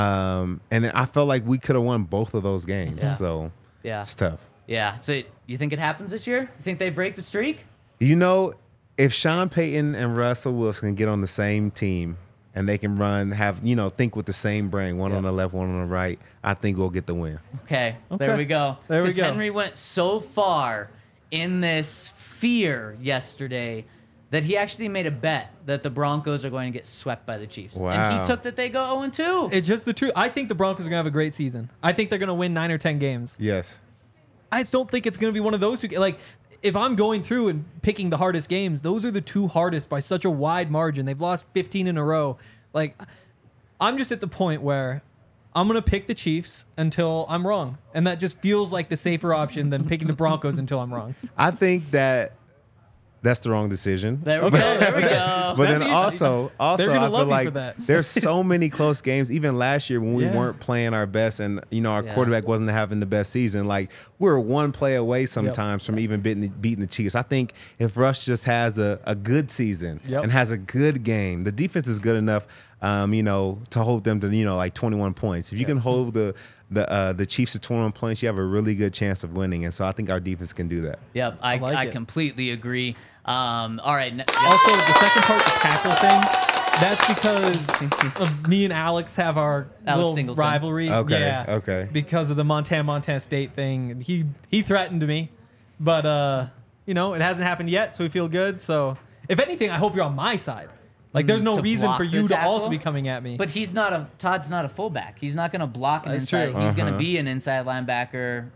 [SPEAKER 2] Um, and I felt like we could have won both of those games.
[SPEAKER 1] Yeah.
[SPEAKER 2] So
[SPEAKER 1] yeah.
[SPEAKER 2] it's tough.
[SPEAKER 1] Yeah. So you think it happens this year? You think they break the streak?
[SPEAKER 2] You know, if Sean Payton and Russell Wilson can get on the same team and they can run, have, you know, think with the same brain, one
[SPEAKER 1] Yeah.
[SPEAKER 2] on the left, one on the right, I think we'll get the win.
[SPEAKER 1] Okay. There
[SPEAKER 3] Okay.
[SPEAKER 1] we go.
[SPEAKER 3] There we
[SPEAKER 1] Because
[SPEAKER 3] go.
[SPEAKER 1] Henry went so far in this fear yesterday that he actually made a bet that the Broncos are going to get swept by the Chiefs. And
[SPEAKER 2] Wow.
[SPEAKER 1] he took that they go oh and two.
[SPEAKER 3] It's just the truth. I think the Broncos are gonna have a great season. I think they're gonna win nine or ten games.
[SPEAKER 2] Yes.
[SPEAKER 3] I just don't think it's gonna be one of those who like. If I'm going through and picking the hardest games, those are the two hardest by such a wide margin. They've lost fifteen in a row. Like, I'm just at the point where I'm gonna pick the Chiefs until I'm wrong, and that just feels like the safer option than picking the Broncos until I'm wrong.
[SPEAKER 2] I think that that's the wrong decision.
[SPEAKER 1] There we go. There we go.
[SPEAKER 2] But
[SPEAKER 3] That's
[SPEAKER 2] then
[SPEAKER 3] easy.
[SPEAKER 2] also, also
[SPEAKER 3] They're gonna
[SPEAKER 2] I
[SPEAKER 3] love
[SPEAKER 2] feel
[SPEAKER 3] you for
[SPEAKER 2] like
[SPEAKER 3] that.
[SPEAKER 2] there's so many close games. Even last year when we
[SPEAKER 3] Yeah.
[SPEAKER 2] weren't playing our best, and you know our
[SPEAKER 1] Yeah.
[SPEAKER 2] quarterback wasn't having the best season. Like we were one play away sometimes from even beating the, beating the Chiefs. I think if Rush just has a, a good season
[SPEAKER 3] Yep.
[SPEAKER 2] and has a good game, the defense is good enough, um, you know, to hold them to you know like twenty-one points. If you can hold the the uh, the Chiefs to twenty-one points, you have a really good chance of winning. And so I think our defense can do that.
[SPEAKER 1] Yep, I, I,
[SPEAKER 3] like it.
[SPEAKER 1] completely agree. Um, all right. n-
[SPEAKER 3] Also, the second part, the tackle thing, that's because of me and Alex have our
[SPEAKER 1] Alex
[SPEAKER 3] little
[SPEAKER 1] Singleton.
[SPEAKER 3] rivalry.
[SPEAKER 2] Okay,
[SPEAKER 3] Yeah,
[SPEAKER 2] okay.
[SPEAKER 3] Because of the Montana Montana State thing, he he threatened me, but uh, you know, it hasn't happened yet, so we feel good. So, if anything, I hope you're on my side. Like, there's no
[SPEAKER 1] To
[SPEAKER 3] reason
[SPEAKER 1] block
[SPEAKER 3] for
[SPEAKER 1] the
[SPEAKER 3] you to
[SPEAKER 1] tackle?
[SPEAKER 3] also be coming at me.
[SPEAKER 1] But he's not a Todd's not a fullback. He's not going to block an
[SPEAKER 3] That's
[SPEAKER 1] inside.
[SPEAKER 3] true.
[SPEAKER 1] He's going to
[SPEAKER 2] Uh-huh.
[SPEAKER 1] be an inside linebacker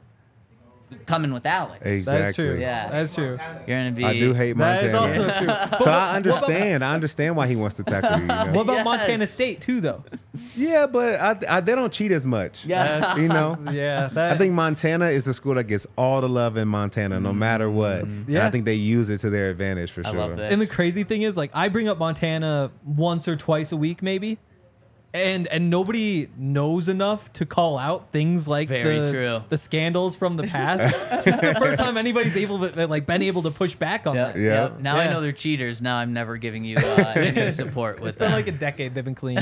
[SPEAKER 1] coming with Alex.
[SPEAKER 2] Exactly.
[SPEAKER 3] That's true.
[SPEAKER 1] Yeah.
[SPEAKER 3] That's true.
[SPEAKER 1] You're going to be.
[SPEAKER 2] I do hate
[SPEAKER 3] That
[SPEAKER 2] Montana.
[SPEAKER 3] is also true.
[SPEAKER 2] So I understand. I understand why he wants to tackle you. you know?
[SPEAKER 3] What about
[SPEAKER 1] Yes.
[SPEAKER 3] Montana State too, though?
[SPEAKER 2] Yeah, but I, I, they don't cheat as much.
[SPEAKER 1] Yeah.
[SPEAKER 2] You know?
[SPEAKER 3] Yeah, that,
[SPEAKER 2] I think Montana is the school that gets all the love in Montana, no matter what. And
[SPEAKER 3] Yeah.
[SPEAKER 2] I think they use it to their advantage for
[SPEAKER 1] I
[SPEAKER 2] sure.
[SPEAKER 1] love this.
[SPEAKER 3] And the crazy thing is, like, I bring up Montana once or twice a week, maybe, and and nobody knows enough to call out things like
[SPEAKER 1] very
[SPEAKER 3] the,
[SPEAKER 1] true.
[SPEAKER 3] the scandals from the past. This is the first time anybody's able to like been able to push back on
[SPEAKER 1] Yep,
[SPEAKER 3] that.
[SPEAKER 2] Yeah.
[SPEAKER 1] yep. Now I
[SPEAKER 3] Yeah.
[SPEAKER 1] know they're cheaters. Now I'm never giving you uh, any support with
[SPEAKER 3] It's been
[SPEAKER 1] that.
[SPEAKER 3] like a decade they've been clean.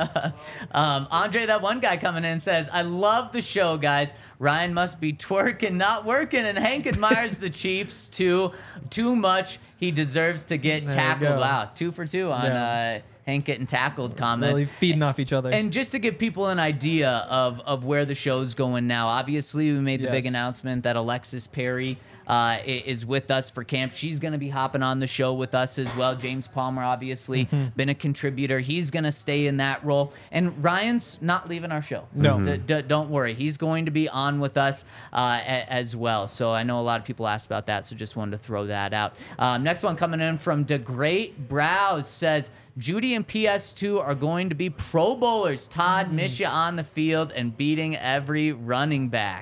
[SPEAKER 1] Um, Andre, that one guy coming in says, I love the show, guys. Ryan must be twerking, not working, and Hank admires the Chiefs too too much. He deserves to get
[SPEAKER 3] There you
[SPEAKER 1] tackled.
[SPEAKER 3] go.
[SPEAKER 1] Wow, two for two on
[SPEAKER 3] Yeah.
[SPEAKER 1] uh, Hank getting tackled comments.
[SPEAKER 3] Really feeding off each other.
[SPEAKER 1] And just to give people an idea of, of where the show's going now, obviously we made the big
[SPEAKER 3] Yes.
[SPEAKER 1] announcement that Alexis Perry uh, i- is with us for camp. She's going to be hopping on the show with us as well. James Palmer, obviously,
[SPEAKER 3] Mm-hmm.
[SPEAKER 1] been a contributor. He's going to stay in that role. And Ryan's not leaving our show.
[SPEAKER 3] No.
[SPEAKER 1] D- d- don't worry. He's going to be on with us uh, a- as well. So I know a lot of people asked about that, so just wanted to throw that out. Um, next one coming in from DeGreat Browse says, Judy and P S two are going to be Pro Bowlers. Todd, miss you on the field and beating every running back.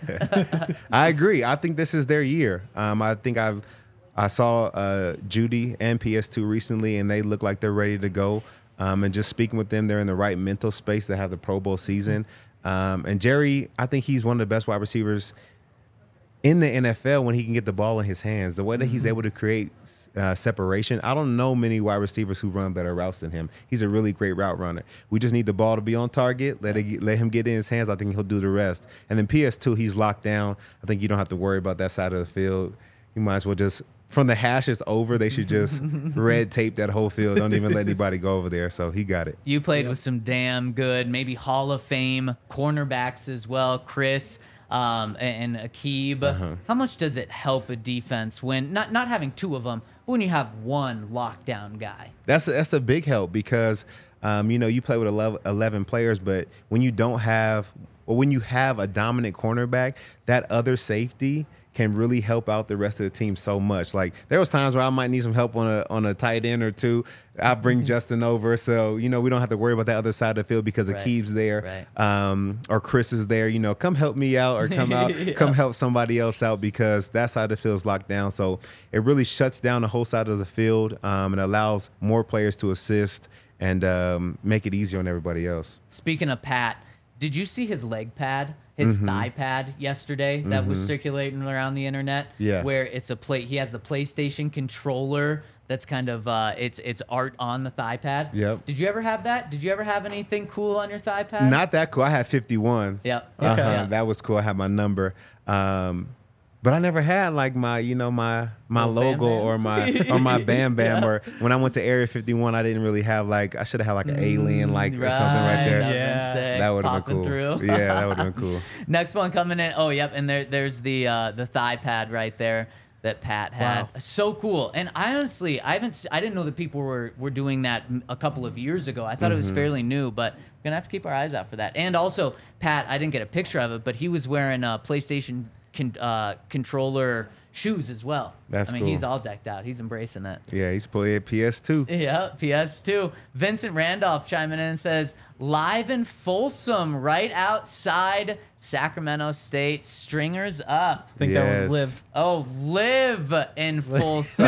[SPEAKER 2] I agree. I think this is their year. Um, I think I've I saw uh, Judy and P S two recently, and they look like they're ready to go. Um, and just speaking with them, they're in the right mental space to have the Pro Bowl season. Um, and Jerry, I think he's one of the best wide receivers in the N F L when he can get the ball in his hands. The way that he's able to create uh, separation, I don't know many wide receivers who run better routes than him. He's a really great route runner. We just need the ball to be on target. Let it, let him get in his hands. I think he'll do the rest. And then P S two, he's locked down. I think you don't have to worry about that side of the field. You might as well just, from the hashes over, they should just red tape that whole field. Don't even let anybody go over there. So he got it.
[SPEAKER 1] You played with some damn good, maybe Hall of Fame cornerbacks as well, Chris um, and Aqib. Uh-huh. How much does it help a defense when not not having two of them, but when you have one lockdown guy?
[SPEAKER 2] That's a, that's a big help because um, you know you play with eleven, eleven players, but when you don't have, or when you have a dominant cornerback, that other safety can really help out the rest of the team so much. Like there was times where I might need some help on a on a tight end or two. I'll bring mm-hmm. Justin over, so you know we don't have to worry about that other side of the field because
[SPEAKER 1] right.
[SPEAKER 2] Aqib's there,
[SPEAKER 1] right.
[SPEAKER 2] um, or Chris is there. You know, come help me out or come out, yeah. come help somebody else out because that side of the field is locked down. So it really shuts down the whole side of the field um, and allows more players to assist and um, make it easier on everybody else.
[SPEAKER 1] Speaking of Pat, did you see his leg pad? His
[SPEAKER 2] mm-hmm.
[SPEAKER 1] thigh pad yesterday that
[SPEAKER 2] mm-hmm.
[SPEAKER 1] was circulating around the internet.
[SPEAKER 2] Yeah.
[SPEAKER 1] Where it's a play. He has the PlayStation controller that's kind of uh, it's it's art on the thigh pad.
[SPEAKER 2] Yep.
[SPEAKER 1] Did you ever have that? Did you ever have anything cool on your thigh pad?
[SPEAKER 2] Not that cool. I had fifty-one.
[SPEAKER 1] Yep.
[SPEAKER 2] Uh-huh.
[SPEAKER 1] Okay. Yeah.
[SPEAKER 2] That was cool. I had my number. Um, but I never had like my, you know, my my
[SPEAKER 1] oh,
[SPEAKER 2] logo
[SPEAKER 1] Bam Bam.
[SPEAKER 2] or my or my Bam Bam.
[SPEAKER 1] Yeah.
[SPEAKER 2] Or when I went to Area fifty-one, I didn't really have like I should have had like an alien like
[SPEAKER 1] right.
[SPEAKER 2] or something right there.
[SPEAKER 1] That
[SPEAKER 3] Yeah.
[SPEAKER 2] That would have been cool.
[SPEAKER 1] Through.
[SPEAKER 2] Yeah, that would have been cool.
[SPEAKER 1] Next one coming in. Oh, yep. And there there's the uh, the thigh pad right there that Pat had.
[SPEAKER 3] Wow.
[SPEAKER 1] So cool. And I honestly, I haven't, I didn't know that people were, were doing that a couple of years ago. I thought mm-hmm. it was fairly new, but we're going to have to keep our eyes out for that. And also, Pat, I didn't get a picture of it, but he was wearing a PlayStation con, uh, controller shoes as well.
[SPEAKER 2] That's
[SPEAKER 1] I mean,
[SPEAKER 2] cool.
[SPEAKER 1] he's all decked out. He's embracing it.
[SPEAKER 2] Yeah, he's playing P S two.
[SPEAKER 1] Yeah, P S two. Vincent Randolph chiming in and says, live in Folsom, right outside Sacramento State. Stringers up.
[SPEAKER 3] I think
[SPEAKER 2] Yes.
[SPEAKER 3] that was Liv.
[SPEAKER 1] Oh, live in Folsom.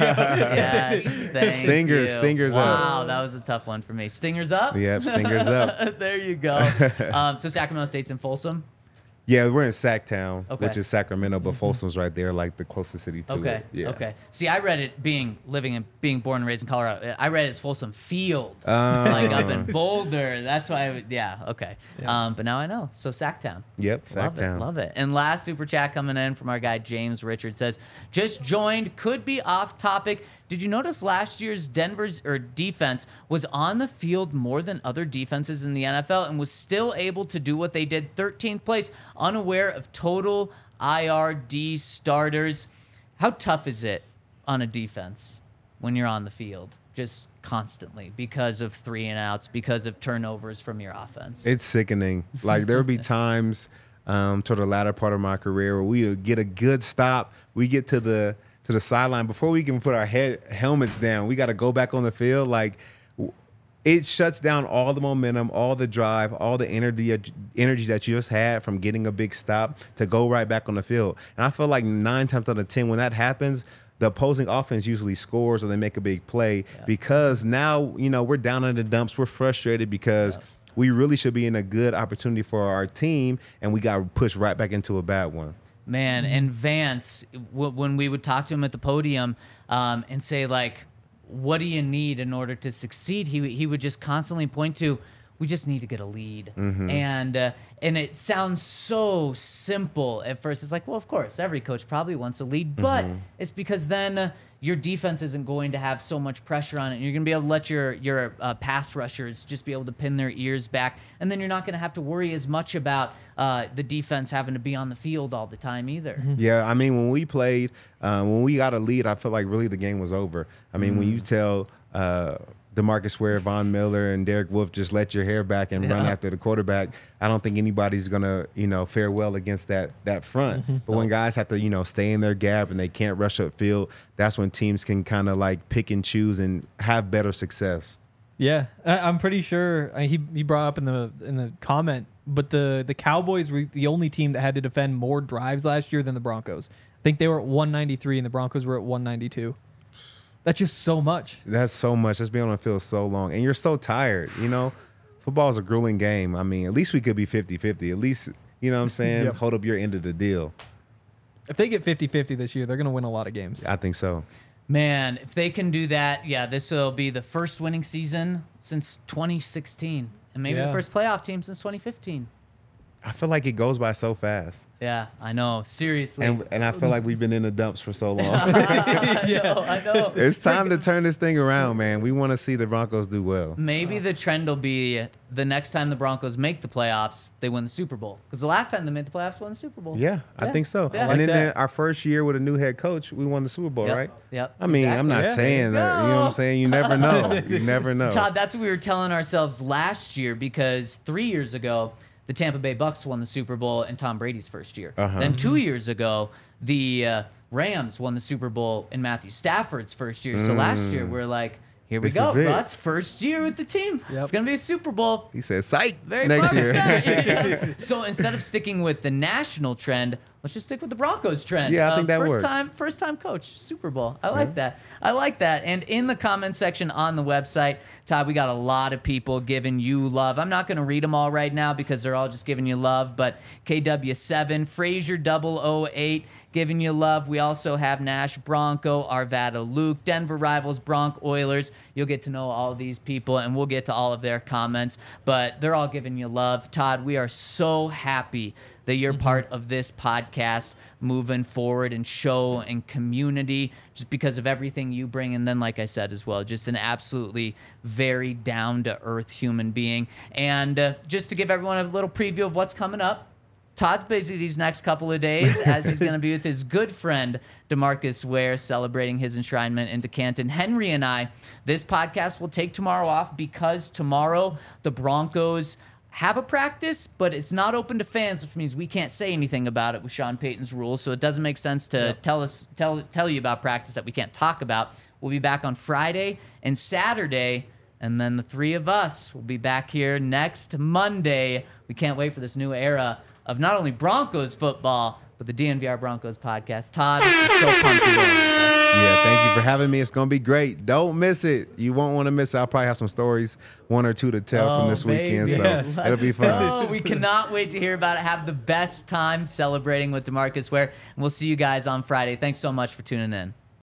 [SPEAKER 1] Yes, thank
[SPEAKER 2] Stingers,
[SPEAKER 1] you.
[SPEAKER 2] Stingers
[SPEAKER 1] wow,
[SPEAKER 2] up.
[SPEAKER 1] Wow, that was a tough one for me. Stingers up?
[SPEAKER 2] Yep, Stingers up.
[SPEAKER 1] There you go. Um, so Sacramento State's in Folsom?
[SPEAKER 2] Yeah, we're in Sacktown,
[SPEAKER 1] Okay.
[SPEAKER 2] which is Sacramento, but Folsom's right there, like the closest city to
[SPEAKER 1] Okay.
[SPEAKER 2] it. Yeah.
[SPEAKER 1] Okay. See, I read it being living and being born and raised in Colorado. I read it as Folsom Field,
[SPEAKER 2] Oh.
[SPEAKER 1] like up in Boulder. That's why. I would, yeah. Okay. Um, but now I know. So Sacktown.
[SPEAKER 2] Yep,
[SPEAKER 1] Love it.
[SPEAKER 2] Sacktown.
[SPEAKER 1] Love it. And last super chat coming in from our guy James Richard says, just joined. Could be off topic. Did you notice last year's Denver's or defense was on the field more than other defenses in the N F L and was still able to do what they did? thirteenth place, unaware of total I R D starters. How tough is it on a defense when you're on the field just constantly because of three and outs, because of turnovers from your offense?
[SPEAKER 2] It's sickening. Like there would be times um, toward the latter part of my career where we would get a good stop. We get to the to the sideline before we can put our head helmets down. We got to go back on the field. Like it shuts down all the momentum, all the drive, all the energy energy that you just had from getting a big stop to go right back on the field. And I feel like nine times out of ten, when that happens, the opposing offense usually scores or they make a big play yeah. because now, you know, we're down in the dumps. We're frustrated because yeah. we really should be in a good opportunity for our team, and we got pushed right back into a bad one.
[SPEAKER 1] Man, and Vance, w- when we would talk to him at the podium um, and say, like, what do you need in order to succeed? He he would just constantly point to, we just need to get a lead. Mm-hmm. And uh, and it sounds so simple at first. It's like, well, of course, every coach probably wants a lead, but mm-hmm. it's because then uh, your defense isn't going to have so much pressure on it. And you're going to be able to let your, your uh, pass rushers just be able to pin their ears back. And then you're not going to have to worry as much about uh, the defense having to be on the field all the time either. Mm-hmm.
[SPEAKER 2] Yeah, I mean, when we played, uh, when we got a lead, I felt like really the game was over. I mean, mm-hmm. when you tell uh, DeMarcus Ware, Von Miller, and Derek Wolfe just let your hair back and yeah. run after the quarterback, I don't think anybody's going to, you know, fare well against that that front. Mm-hmm. But when guys have to, you know, stay in their gap and they can't rush upfield, that's when teams can kind of like pick and choose and have better success.
[SPEAKER 3] Yeah, I, I'm pretty sure uh, he he brought up in the in the comment, but the the Cowboys were the only team that had to defend more drives last year than the Broncos. I think they were at one ninety-three and the Broncos were at one ninety-two. That's just so much.
[SPEAKER 2] That's so much. Just being on the field so long. And you're so tired, you know? Football is a grueling game. I mean, at least we could be fifty-fifty. At least, you know what I'm saying?
[SPEAKER 3] Yep.
[SPEAKER 2] Hold up your end of the deal.
[SPEAKER 3] If they get fifty-fifty this year, they're going to win a lot of games.
[SPEAKER 2] I think so.
[SPEAKER 1] Man, if they can do that, yeah, this will be the first winning season since twenty sixteen. And maybe
[SPEAKER 3] Yeah.
[SPEAKER 1] the first playoff team since twenty fifteen.
[SPEAKER 2] I feel like it goes by so fast.
[SPEAKER 1] Yeah, I know. Seriously.
[SPEAKER 2] And, and I feel like we've been in the dumps for so long.
[SPEAKER 1] I know, I know.
[SPEAKER 2] It's time to turn this thing around, man. We want to see the Broncos do well.
[SPEAKER 1] Maybe the trend will be the next time the Broncos make the playoffs, they win the Super Bowl. Because the last time they made the playoffs, they won the Super Bowl.
[SPEAKER 2] Yeah, I
[SPEAKER 1] Yeah.
[SPEAKER 2] think so.
[SPEAKER 1] Yeah.
[SPEAKER 2] And
[SPEAKER 3] like
[SPEAKER 2] then,
[SPEAKER 3] that.
[SPEAKER 2] then our first year with a new head coach, we won the Super Bowl,
[SPEAKER 1] Yep.
[SPEAKER 2] right?
[SPEAKER 1] Yep.
[SPEAKER 2] I mean, I'm not
[SPEAKER 3] Yeah.
[SPEAKER 2] saying that. You know what I'm saying? You never know. You never know.
[SPEAKER 1] Todd, that's what we were telling ourselves last year because three years ago, the Tampa Bay Bucks won the Super Bowl in Tom Brady's first year.
[SPEAKER 2] Uh-huh.
[SPEAKER 1] Then two years ago, the uh, Rams won the Super Bowl in Matthew Stafford's first year. So last year, we're like, here we
[SPEAKER 2] This
[SPEAKER 1] go,
[SPEAKER 2] is it.
[SPEAKER 1] Russ. First year with the team.
[SPEAKER 3] Yep.
[SPEAKER 1] It's going to be a Super Bowl.
[SPEAKER 2] He said, psych,
[SPEAKER 1] Very
[SPEAKER 2] next
[SPEAKER 1] proud of
[SPEAKER 2] year.
[SPEAKER 1] that. So instead of sticking with the national trend, let's just stick with the Broncos trend.
[SPEAKER 2] Yeah, I think
[SPEAKER 1] of
[SPEAKER 2] that
[SPEAKER 1] first
[SPEAKER 2] works.
[SPEAKER 1] time, first time coach, Super Bowl. I like that. I like that. And in the comment section on the website, Todd, we got a lot of people giving you love. I'm not going to read them all right now because they're all just giving you love. But K W seven, Frazier double oh eight, giving you love. We also have Nash Bronco, Arvada Luke, Denver Rivals, Bronc Oilers. You'll get to know all these people, and we'll get to all of their comments. But they're all giving you love. Todd, we are so happy that you're part of this podcast moving forward and show and community just because of everything you bring. And then, like I said as well, just an absolutely very down-to-earth human being. And uh, just to give everyone a little preview of what's coming up, Todd's busy these next couple of days as he's going to be with his good friend, DeMarcus Ware, celebrating his enshrinement into Canton. Henry and I, this podcast will take tomorrow off because tomorrow the Broncos have a practice, but it's not open to fans, which means we can't say anything about it with Sean Payton's rules. So it doesn't make sense to
[SPEAKER 3] Yep.
[SPEAKER 1] tell us tell tell you about practice that we can't talk about. We'll be back on Friday and Saturday, and then the three of us will be back here next Monday. We can't wait for this new era of not only Broncos football, but the D N V R Broncos podcast. Todd, I'm so pumped to go.
[SPEAKER 2] Yeah, thank you for having me. It's going to be great. Don't miss it. You won't want to miss it. I'll probably have some stories, one or two to tell
[SPEAKER 1] Oh,
[SPEAKER 2] from this weekend.
[SPEAKER 1] baby.
[SPEAKER 2] So
[SPEAKER 3] Yes.
[SPEAKER 2] it'll be fun.
[SPEAKER 1] Oh, we cannot wait to hear about it. Have the best time celebrating with DeMarcus Ware. And we'll see you guys on Friday. Thanks so much for tuning in.